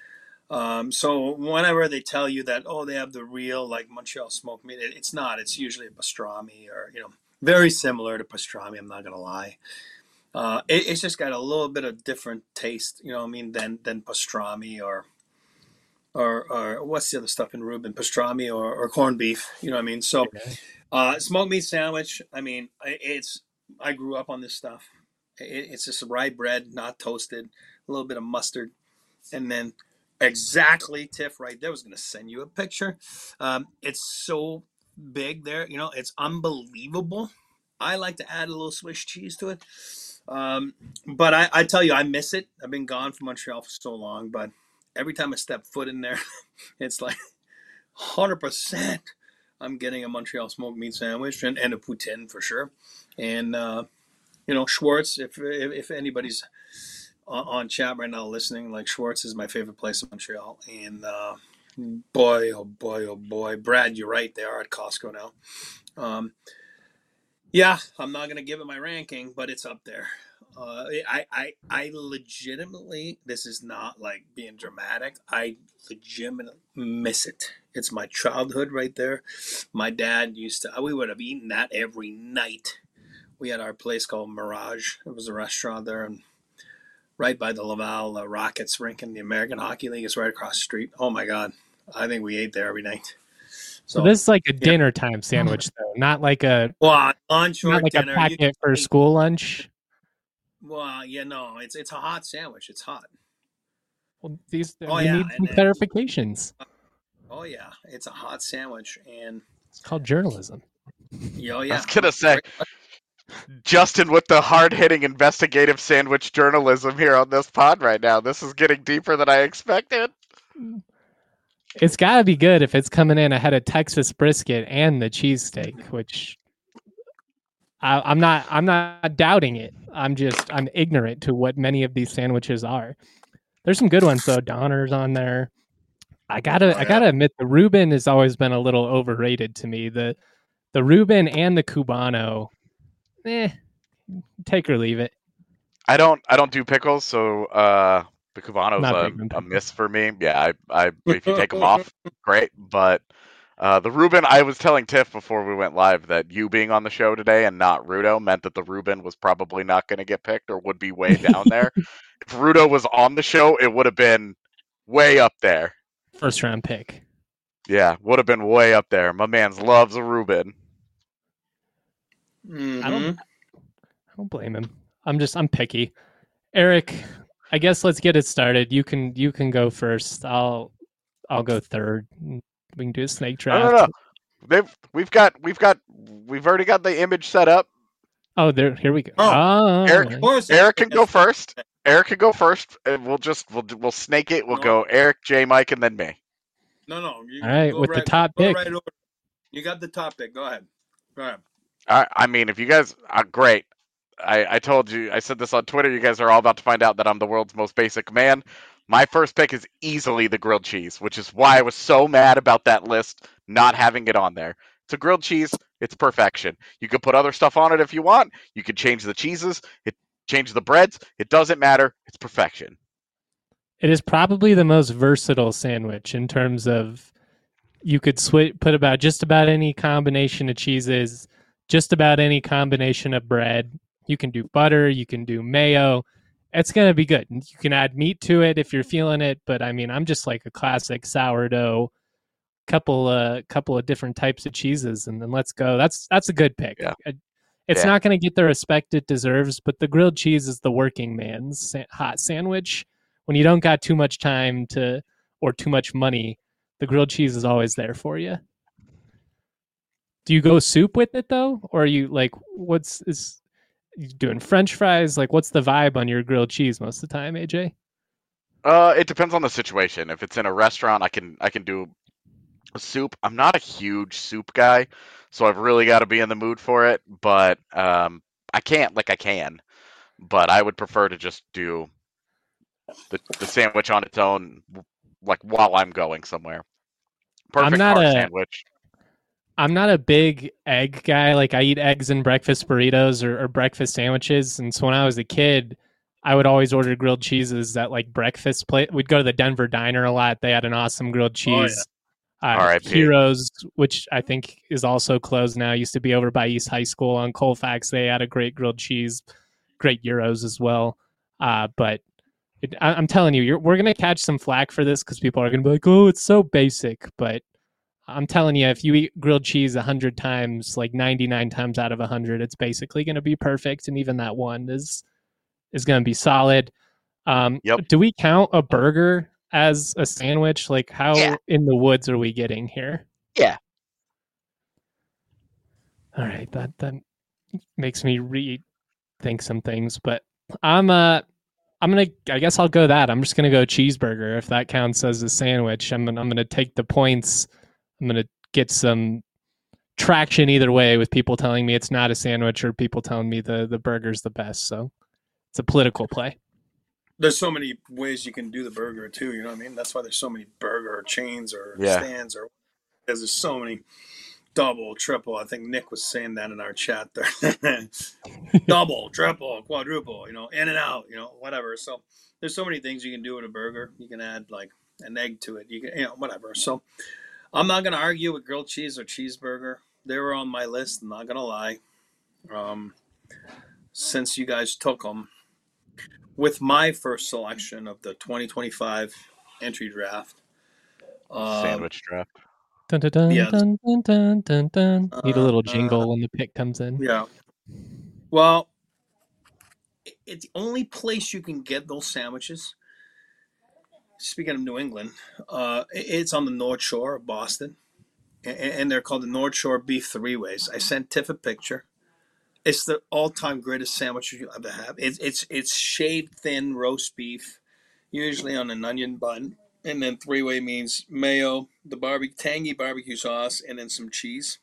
Um, so whenever they tell you that, oh, they have the real like Montreal smoked meat, it, it's not. It's usually a pastrami or you know very similar to pastrami. I'm not gonna lie. Uh, it, it's just got a little bit of different taste, you know what I mean, than than pastrami or or or what's the other stuff in Reuben? Pastrami or, or corned beef, you know what I mean? So uh, smoked meat sandwich. I mean, it's I grew up on this stuff. It, it's just rye bread, not toasted, a little bit of mustard, and then exactly Tiff right there. I was going to send you a picture. Um, it's so big there, you know, it's unbelievable. I like to add a little Swiss cheese to it. Um, but I, I tell you, I miss it. I've been gone from Montreal for so long, but every time I step foot in there, it's like one hundred percent I'm getting a Montreal smoked meat sandwich and, and a poutine for sure. And, uh, you know, Schwartz, if, if, if anybody's on, on chat right now listening, like Schwartz is my favorite place in Montreal. And uh, boy, oh boy, oh boy. Brad, you're right. They are at Costco now. Um, yeah, I'm not going to give it my ranking, but it's up there. Uh, I, I, I legitimately, this is not like being dramatic. I legitimately miss it. It's my childhood right there. My dad used to, we would have eaten that every night. We had our place called Mirage. It was a restaurant there, and right by the Laval uh, Rockets rink in the American Hockey League. It's right across the street. Oh my God. I think we ate there every night. So, so this is like a dinner time sandwich, though, not like a well, lunch or not like dinner. a packet You, for school lunch. Well, yeah, no, it's it's a hot sandwich. It's hot. Well, these oh, we yeah, need some and, clarifications. Oh yeah, it's a hot sandwich, and it's called journalism. Oh yeah, I was gonna say, Justin with the hard-hitting investigative sandwich journalism here on this pod right now. This is getting deeper than I expected. It's got to be good if it's coming in ahead of Texas brisket and the cheesesteak, which I, I'm not. I'm not doubting it. I'm just. I'm ignorant to what many of these sandwiches are. There's some good ones though. Donner's on there. I gotta. Oh, yeah. I gotta admit, the Reuben has always been a little overrated to me. The the Reuben and the Cubano. Eh, take or leave it. I don't. I don't do pickles, so uh, the Cubano's a, a miss for me. Yeah, I. I if you take them off, great. But uh, the Reuben, I was telling Tiff before we went live that you being on the show today and not Rudo meant that the Reuben was probably not going to get picked or would be way down there. If Rudo was on the show, it would have been way up there. First round pick. Yeah, would have been way up there. My man's loves a Reuben. Mm-hmm. I don't. I don't blame him. I'm just. I'm picky. Eric, I guess let's get it started. You can. You can go first. I'll. I'll go third. We can do a snake draft. No, no, no. They've. We've got. We've got. We've already got the image set up. Oh, there. Here we go. Oh, oh Eric. Right. Eric can go first. Eric can go first, and we'll just. We'll. We'll snake it. We'll no. go Eric, J, Mike, and then me. No, no. You, All right, with right, the top pick. Right you got the top pick. Go ahead. Go ahead. I, I mean, if you guys are great, I, I told you, I said this on Twitter, you guys are all about to find out that I'm the world's most basic man. My first pick is easily the grilled cheese, which is why I was so mad about that list not having it on there. It's a grilled cheese. It's perfection. You can put other stuff on it if you want. You can change the cheeses, it change the breads. It doesn't matter. It's perfection. It is probably the most versatile sandwich in terms of you could switch, put about just about any combination of cheeses, just about any combination of bread. You can do butter, you can do mayo. It's going to be good. You can add meat to it if you're feeling it, but I mean, I'm just like a classic sourdough, couple uh couple of different types of cheeses, and then let's go. That's that's a good pick. Yeah. It's Yeah. not going to get the respect it deserves, but the grilled cheese is the working man's sa- hot sandwich. When you don't got too much time to or too much money, the grilled cheese is always there for you. Do you go soup with it though, or are you like what's is you doing French fries? Like what's the vibe on your grilled cheese most of the time, A J? Uh, it depends on the situation. If it's in a restaurant, I can I can do a soup. I'm not a huge soup guy, so I've really got to be in the mood for it. But um, I can't like I can, but I would prefer to just do the the sandwich on its own, like while I'm going somewhere. I'm Perfect not heart a sandwich. I'm not a big egg guy. Like I eat eggs in breakfast burritos or, or breakfast sandwiches. And so when I was a kid, I would always order grilled cheeses at like breakfast plate. We'd go to the Denver Diner a lot. They had an awesome grilled Oh, yeah. cheese. Uh, R I P. Heroes, which I think is also closed now, used to be over by East High School on Colfax. They had a great grilled cheese, great gyros as well. Uh, but it, I, I'm telling you, you're, we're going to catch some flack for this because people are going to be like, oh, it's so basic. But I'm telling you, if you eat grilled cheese a hundred times, like ninety-nine times out of a hundred, it's basically going to be perfect, and even that one is is going to be solid. Um, Yep. Do we count a burger as a sandwich? Like, how Yeah. in the woods are we getting here? Yeah. All right, that that makes me rethink some things, but I'm uh I'm gonna I guess I'll go that. I'm just gonna go cheeseburger if that counts as a sandwich. I'm gonna, I'm gonna take the points. I'm gonna get some traction either way with people telling me it's not a sandwich or people telling me the the burger's the best. So it's a political play. There's so many ways you can do the burger too. You know what I mean? That's why there's so many burger chains or Yeah. stands, or because there's so many double, triple. I think Nick was saying that in our chat there. Double, triple, quadruple. You know, in and out. You know, whatever. So there's so many things you can do with a burger. You can add like an egg to it. You can, you know, whatever. So I'm not gonna argue with grilled cheese or cheeseburger. They were on my list. I'm not gonna lie. Um, since you guys took them, with my first selection of the twenty twenty-five entry draft. Um, Sandwich draft. Dun, dun, dun, Yeah. dun, dun, dun, dun, dun. Need a Uh, little uh, jingle when the pick comes in. Yeah. Well, it- it's the only place you can get those sandwiches. Speaking of New England, uh, it- it's on the North Shore of Boston, and, and they're called the North Shore Beef Three Ways. I sent Tiff a picture. It's the all-time greatest sandwich you ever have. It's it's it's shaved thin roast beef, usually on an onion bun, and then three-way means mayo, the barbecue tangy barbecue sauce, and then some cheese.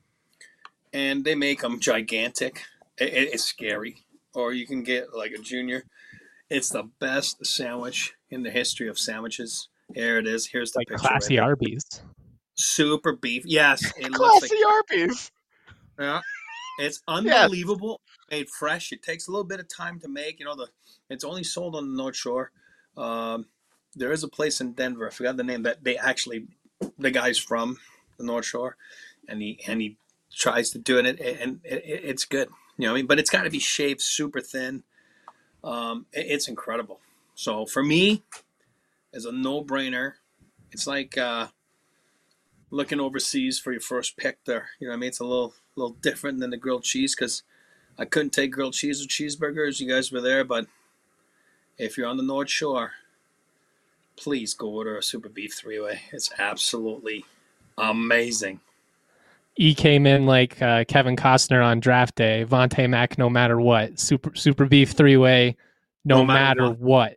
And they make them gigantic. It, it- it's scary. Or you can get like a junior. It's the best sandwich in the history of sandwiches. Here it is. Here's the Like picture. classy right there. Arby's. Super beef. Yes, it looks like Classy Arby's. yeah. It's unbelievable. Made fresh. It takes a little bit of time to make. You know, the it's only sold on the North Shore. Um, there is a place in Denver. I forgot the name that they actually the guy's from the North Shore, and he and he tries to do it, and, and it, it's good. You know what I mean? But it's got to be shaved super thin. Um, it, it's incredible. So for me, as a no-brainer, it's like uh, looking overseas for your first pick there. You know what I mean? It's a little little different than the grilled cheese because I couldn't take grilled cheese or cheeseburgers. You guys were there, but if you're on the North Shore, please go order a super beef three-way. It's absolutely amazing. E came in like uh, Kevin Costner on draft day. Vontae Mack, no matter what. Super super beef three way, no, No matter matter what.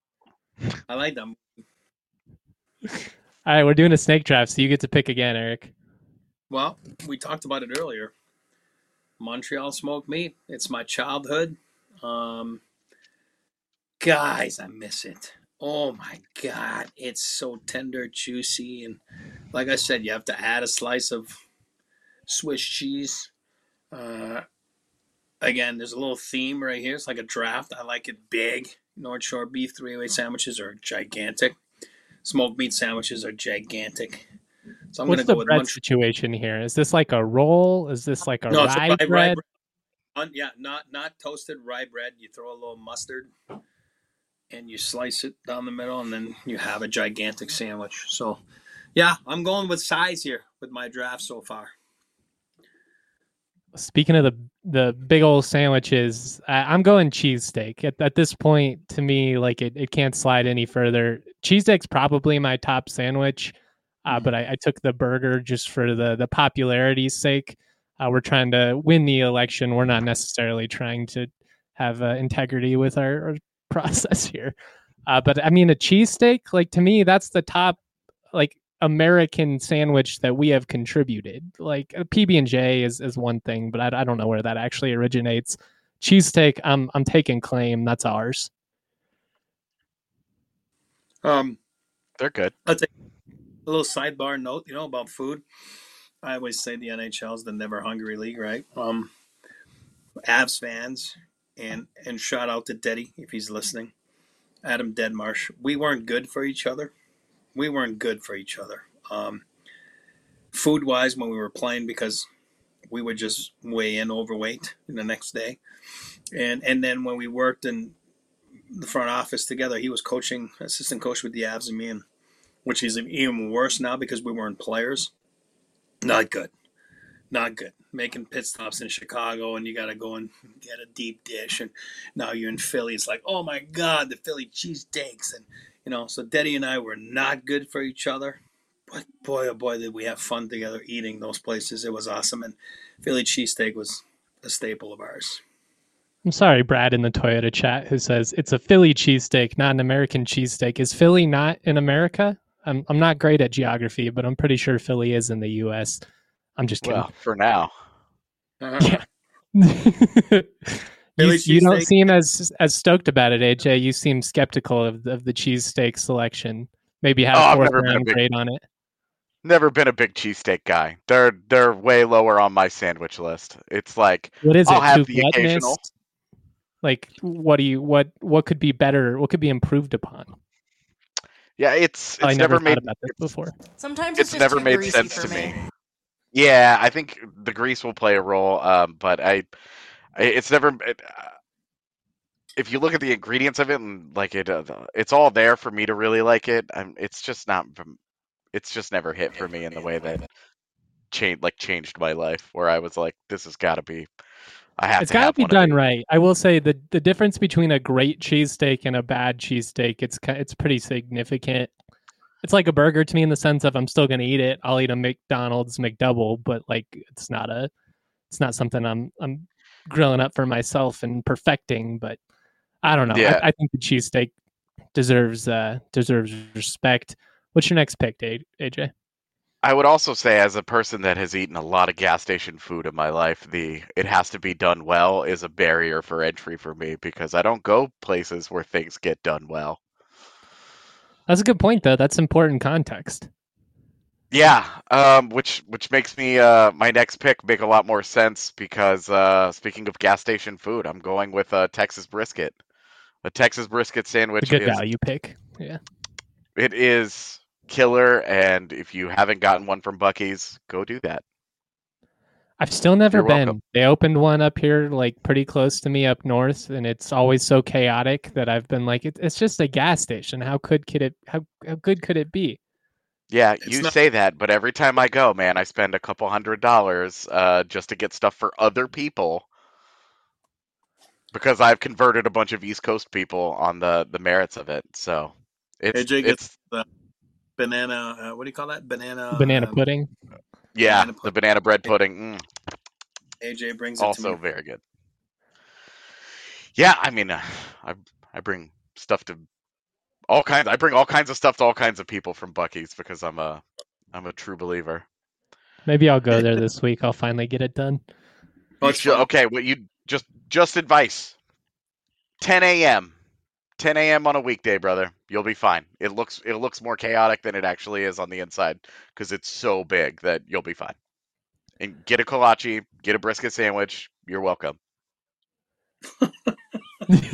I like them. All right, we're doing a snake draft, so you get to pick again, Eric. Well, we talked about it earlier. Montreal smoked meat. It's my childhood. Um, guys, I miss it. Oh my God. It's so tender, juicy. And like I said, you have to add a slice of Swiss cheese. Uh, again, there's a little theme right here. It's like a draft. I like it big. North Shore beef three-way sandwiches are gigantic. Smoked meat sandwiches are gigantic. So I'm What's going to the go with bread one. situation here? Is this like a roll? Is this like a No, it's a rye rye, rye bread? bread. Un- yeah, not not toasted rye bread. You throw a little mustard and you slice it down the middle, and then you have a gigantic sandwich. So, yeah, I'm going with size here with my draft so far. Speaking of the the big old sandwiches, I, I'm going cheesesteak. At, at this point, to me, like it, it can't slide any further. Cheesesteak's probably my top sandwich, uh, Mhm. but I, I took the burger just for the the popularity's sake. Uh, we're trying to win the election. We're not necessarily trying to have uh, integrity with our, our process here. Uh, but I mean, a cheesesteak, like to me, that's the top, like American sandwich that we have contributed. Like a P B and J is is one thing, but I, I don't know where that actually originates. Cheesesteak, I'm I'm taking claim. That's ours. Um, They're good. I'll take a little sidebar note, you know, about food. I always say the N H L is the never hungry league, right? Um, Avs fans, and and shout out to Deddy if he's listening. Adam Deadmarsh. We weren't good for each other. We weren't good for each other. Um, food wise, when we were playing, because we would just weigh in overweight the next day, and and then when we worked in the front office together, he was coaching, assistant coach with the Avs and me, and which is even worse now because we weren't players. Not good. Not good. Making pit stops in Chicago, and you got to go and get a deep dish, and now you're in Philly. It's like, oh my God, the Philly cheesesteaks, and you know. So Deddy and I were not good for each other, but boy, oh boy, did we have fun together eating those places. It was awesome, and Philly cheesesteak was a staple of ours. I'm sorry, Brad in the Toyota chat who says it's a Philly cheesesteak, not an American cheesesteak. Is Philly not in America? I'm I'm not great at geography, but I'm pretty sure Philly is in the U S. I'm just kidding. Well, for now. Yeah. you, Philly you don't cheesesteak. seem as as stoked about it, A J. You seem skeptical of, of the cheesesteak selection. Maybe had Oh, a I've fourth never been a round big- grade on it. Never been a big cheesesteak guy. They're they're way lower on my sandwich list. It's like What is I'll it? have Too the gluttonous? occasional. Like, what do you what what could be better? What could be improved upon? Yeah, it's I it's never never thought made about this it's, before. Sometimes it's, it's just never too made greasy sense for to me. me. Yeah, I think the grease will play a role, um, but I, I it's never. It, uh, if you look at the ingredients of it and like it, uh, it's all there for me to really like it. I'm, it's just not. It's just never hit for me in the way that changed like changed my life. Where I was like, this has got to be. I have It's to got to have be one done of these. right. I will say the the difference between a great cheesesteak and a bad cheesesteak, it's ki- it's pretty significant. It's like a burger to me in the sense of I'm still going to eat it. I'll eat a McDonald's McDouble, but like it's not a it's not something I'm I'm grilling up for myself and perfecting. But I don't know. Yeah. I, I think the cheesesteak deserves uh deserves respect. What's your next pick, A J? I would also say, as a person that has eaten a lot of gas station food in my life, the it has to be done well is a barrier for entry for me because I don't go places where things get done well. That's a good point, though. That's important context. Yeah, um, which which makes me uh, my next pick make a lot more sense because uh, speaking of gas station food, I'm going with a Texas brisket. A Texas brisket It's sandwich a good is value pick. Yeah. it is killer, and if you haven't gotten one from Buc-ee's, go do that. I've still never You're been. welcome. They opened one up here, like pretty close to me up north, and it's always so chaotic that I've been like, it, it's just a gas station. How could could it? How how good could it be? Yeah, It's you not- say that, but every time I go, man, I spend a couple hundred dollars uh, just to get stuff for other people because I've converted a bunch of East Coast people on the the merits of it. So it's A J gets it's the banana. Uh, what do you call that? Banana. Banana uh, pudding. yeah, banana the pudding. banana bread pudding, mm, A J brings it to also me. very good. Yeah, I mean, uh, I I bring stuff to all kinds. I bring all kinds of stuff to all kinds of people from Buc-ee's because I'm a I'm a true believer. Maybe I'll go there this week. I'll finally get it done. Oh, You it's should- fun. okay, well, you just just advice. ten a.m. ten a.m. on a weekday, brother. You'll be fine. It looks it looks more chaotic than it actually is on the inside because it's so big that you'll be fine. And get a kolache, get a brisket sandwich. You're welcome.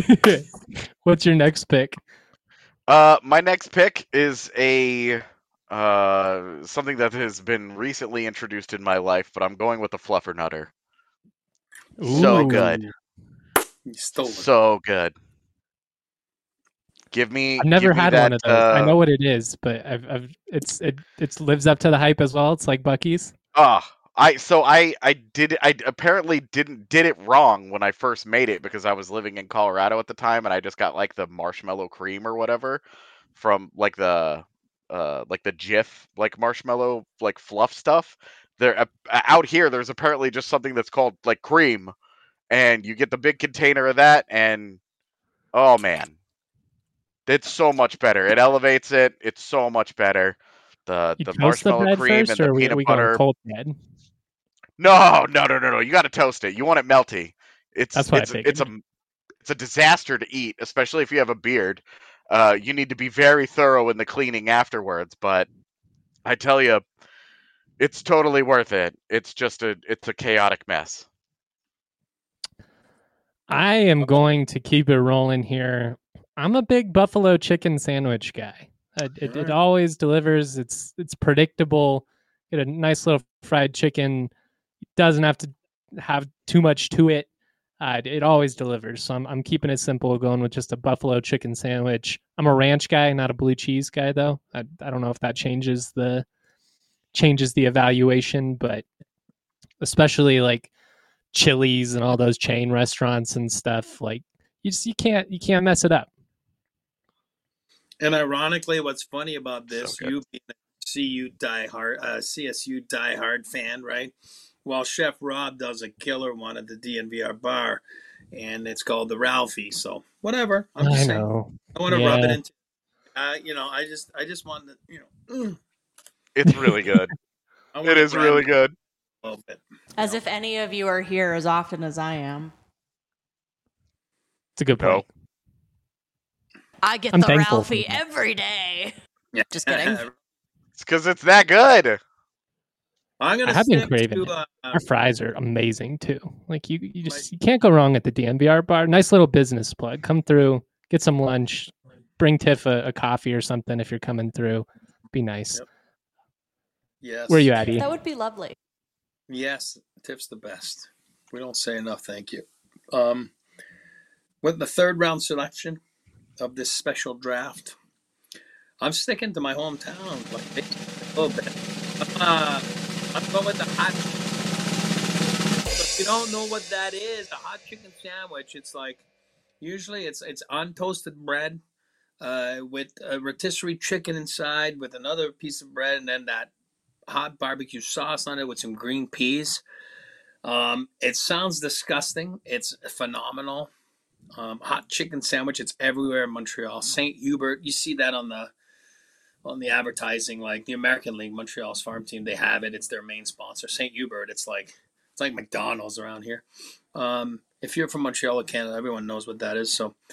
What's your next pick? Uh, my next pick is a uh, something that has been recently introduced in my life, but I'm going with the Fluffernutter. So Ooh. good. You stole it. So good. Give me. I've never give me had that, one of those. I Uh, know what it is, but I've, I've it's it it lives up to the hype as well. It's like Bucky's. Ah, I so I I did I apparently didn't did it wrong when I first made it because I was living in Colorado at the time and I just got like the marshmallow cream or whatever from like the uh like the Jif like marshmallow like fluff stuff. There uh, out here there's apparently just something that's called like cream and you get the big container of that and oh man, it's so much better. It elevates it. It's so much better. The You the toast the marshmallow bread cream first, and the or are we peanut we going butter. cold bread? No, no, no, no, no. You got to toast it. You want it melty. It's That's what I it's it's figured. a it's a disaster to eat, especially if you have a beard. Uh, you need to be very thorough in the cleaning afterwards. But I tell you, it's totally worth it. It's just a it's a chaotic mess. I am going to keep it rolling here. I'm a big buffalo chicken sandwich guy. Uh, it, it Alright. always delivers. It's it's predictable. Get a nice little fried chicken. Doesn't have to have too much to it. Uh, it, it always delivers. So I'm I'm keeping it simple, going with just a buffalo chicken sandwich. I'm a ranch guy, not a blue cheese guy though. I I don't know if that changes the changes the evaluation, but especially like Chili's and all those chain restaurants and stuff, like you just you can't you can't mess it up. And ironically, what's funny about this, So good. you being a C U diehard, uh, C S U diehard fan, right? Well, Chef Rob does a killer one at the D N V R bar, and it's called the Ralphie. So whatever, I'm just I saying. know. I want to rub it Yeah. into, uh, you know, I just, I just want to, you know, mm, It's really good. I want It to is brand really it good. a little bit. As know? if any of you are here as often as I am. It's a good point. No. I get I'm the thankful Ralphie for that. every day. Yeah. Just kidding. It's because it's that good. I'm I gonna have been stick craving to. it. Uh, Our fries are amazing too. Like you, you just you can't go wrong at the D N V R bar. Nice little business plug. Come through, get some lunch, bring Tiff a, a coffee or something if you're coming through. Be nice. Yep. yes. Where you at, E? That would be lovely. Yes, Tiff's the best. We don't say enough. Thank you. Um, with the third round selection of this special draft, I'm sticking to my hometown like a little bit. Uh, I'm going with the hot. So if you don't know what that is, a hot chicken sandwich, it's like usually it's it's untoasted bread uh, with a rotisserie chicken inside, with another piece of bread, and then that hot barbecue sauce on it with some green peas. Um, it sounds disgusting. It's phenomenal. Um, hot chicken sandwich. It's everywhere in Montreal. Saint Hubert. You see that on the on the advertising, like the American League, Montreal's farm team. They have it. It's their main sponsor. Saint Hubert. It's like it's like McDonald's around here. Um, if you're from Montreal or Canada, everyone knows what that is. So,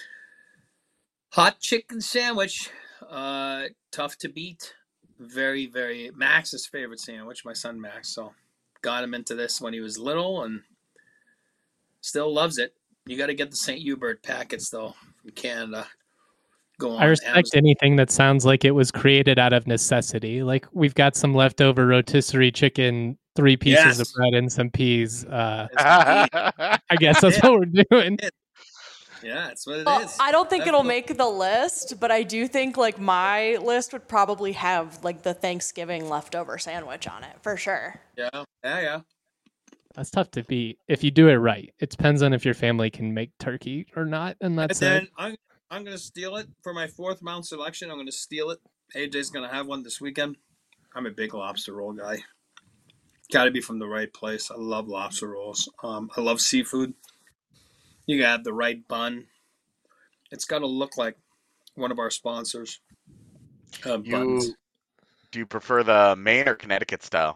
hot chicken sandwich. Uh, tough to beat. Very, very Max's favorite sandwich. My son Max. So, got him into this when he was little and still loves it. You got to get the Saint Hubert packets though from Canada. Go on. I respect Amazon. anything that sounds like it was created out of necessity. Like we've got some leftover rotisserie chicken, three pieces Yes. of bread and some peas. Uh, It's I guess that's Yeah. what we're doing. Yeah, that's what it Well, is. I don't think That's it'll what- make the list, but I do think like my list would probably have like the Thanksgiving leftover sandwich on it for sure. Yeah, yeah, yeah. That's tough to beat if you do it right. It depends on if your family can make turkey or not, and that's and then it. I'm I'm gonna steal it for my fourth round selection. I'm gonna steal it. A J's gonna have one this weekend. I'm a big lobster roll guy. Got to be from the right place. I love lobster rolls. Um, I love seafood. You gotta have the right bun. It's got to look like one of our sponsors. Uh, buns. You do you prefer the Maine or Connecticut style?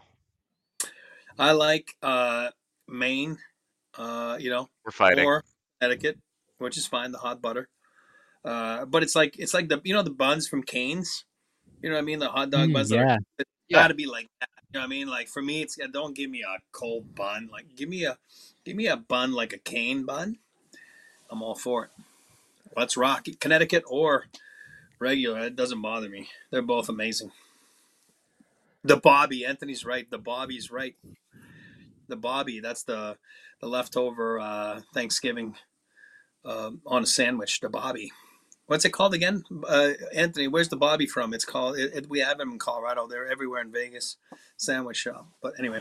I like uh, Maine. Uh, you know, We're fighting. or Connecticut, which is fine. The hot butter. Uh, but it's like it's like the you know the buns from Cane's. You know what I mean? The hot dog Mm, buns. that are- yeah. It's Yeah. got to be like that. You know what I mean? Like for me, it's don't give me a cold bun. Like give me a give me a bun like a cane bun. I'm all for it. Let's rock it. Connecticut or regular. It doesn't bother me. They're both amazing. The Bobby, Anthony's right. The Bobby's right. The Bobby, that's the the leftover uh, Thanksgiving uh, on a sandwich. The Bobby. What's it called again? Uh, Anthony, where's the Bobby from? It's called. It, it, we have them in Colorado. They're everywhere in Vegas. Sandwich shop. But anyway,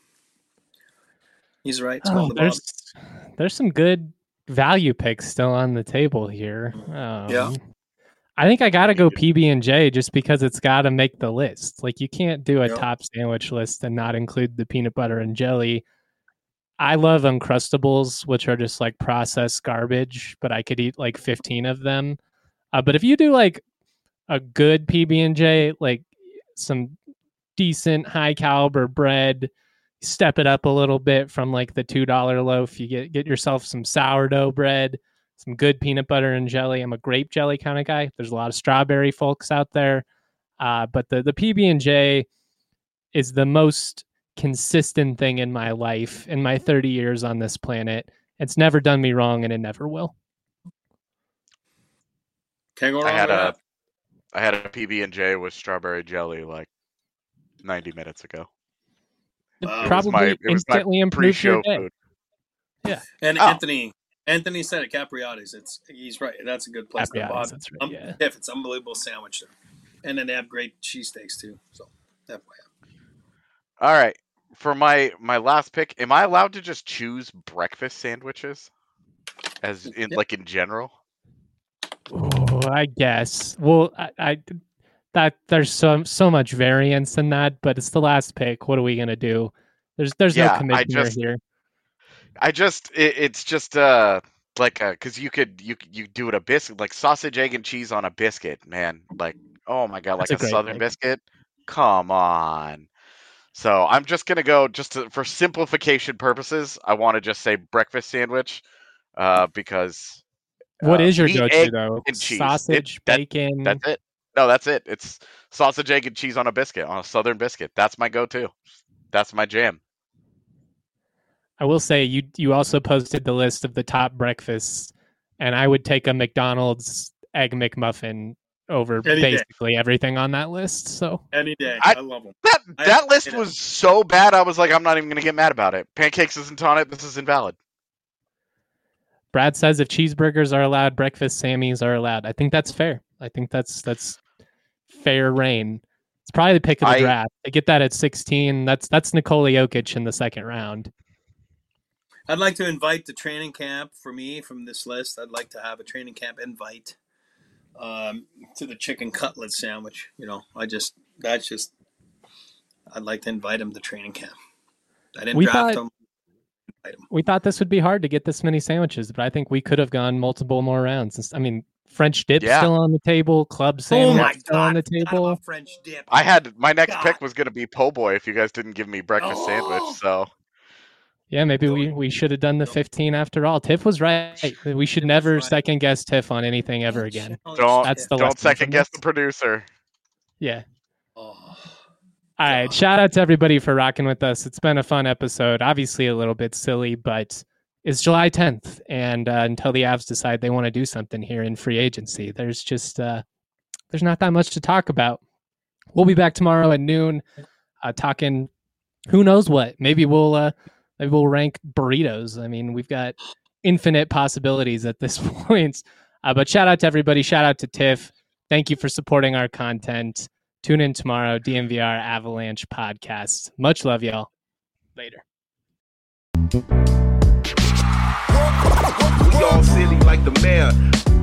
he's right. It's Oh, called the there's Bobby. there's some good value picks still on the table here. Um, Yeah. I think I got to go P B and J just because it's got to make the list. Like, you can't do a Yeah. top sandwich list and not include the peanut butter and jelly. I love Uncrustables, which are just like processed garbage, but I could eat like fifteen of them. Uh, but if you do like a good P B and J, like some decent high caliber bread, step it up a little bit from like the two dollar loaf. You get get yourself some sourdough bread, some good peanut butter and jelly. I'm a grape jelly kind of guy. There's a lot of strawberry folks out there, uh, but the the P B and J is the most consistent thing in my life in my thirty years on this planet. It's never done me wrong, and it never will. Can't go wrong I had with a that. I had a P B and J with strawberry jelly like ninety minutes ago. Wow. It Probably was my, it was my instantly improve your pre-show day. food. And Oh. Anthony, Anthony said it. Capriati's. It's he's right. That's a good place. The Capriati's, Bobby. that's right, Um, yeah. If it's unbelievable sandwich there, and then they have great cheesesteaks too. So F Y I. All right. For my my last pick, am I allowed to just choose breakfast sandwiches? As in Yep. like in general? Oh, I guess. Well, I, I that there's so so much variance in that, but it's the last pick. What are we gonna do? There's there's Yeah, no I commitment just- here. I just it, it's just uh like uh because you could you you do it a biscuit like sausage, egg, and cheese on a biscuit, man. Like, oh my god, That's like a a, great southern pick. biscuit. Come on. So I'm just gonna go just to, for simplification purposes. I want to just say breakfast sandwich, uh, because What uh, is your meat, go-to egg, though? and cheese. Sausage, It- that- bacon. That's it. No, that's it. It's sausage, egg, and cheese on a biscuit, on a southern biscuit. That's my go-to. That's my jam. I will say you you also posted the list of the top breakfasts, and I would take a McDonald's egg McMuffin over Any day. basically everything on that list. So Any day. I- I, love them. That I- that list I- was so bad. I was like, I'm not even gonna get mad about it. Pancakes isn't on it. This is invalid. Brad says if cheeseburgers are allowed, breakfast Sammys are allowed. I think that's fair. I think that's that's fair reign. It's probably the pick of the I- draft. To get that at sixteen, that's that's Nikola Jokic in the second round. I'd like to invite the training camp for me from this list. I'd like to have a training camp invite um, to the chicken cutlet sandwich. You know, I just that's just I'd like to invite him to training camp. I didn't We draft thought- him. Invite him. We thought this would be hard to get this many sandwiches, but I think we could have gone multiple more rounds. I mean, French dip Yeah. still on the table, club Oh sandwich my still on god! the forgot table. about French dip. I had my next God. pick was gonna be po' boy if you guys didn't give me breakfast Oh. sandwich. So Yeah, maybe we, Don't- we should have done the don't- fifteen after all. Tiff was right. We should Tiff was never right. second guess Tiff on anything ever again. Don't- That's the don't lesson second from guess this. the producer. Yeah. Oh. All right. God. Shout out to everybody for rocking with us. It's been a fun episode. Obviously a little bit silly, but it's July tenth. And uh, until the Avs decide they want to do something here in free agency, there's just uh, there's not that much to talk about. We'll be back tomorrow at noon uh, talking who knows what. Maybe we'll uh, maybe we'll rank burritos. I mean, we've got infinite possibilities at this point. Uh, but shout out to everybody. Shout out to Tiff. Thank you for supporting our content. Tune in tomorrow, D M V R Avalanche podcast. Much love, y'all. Later. We all silly like the mayor.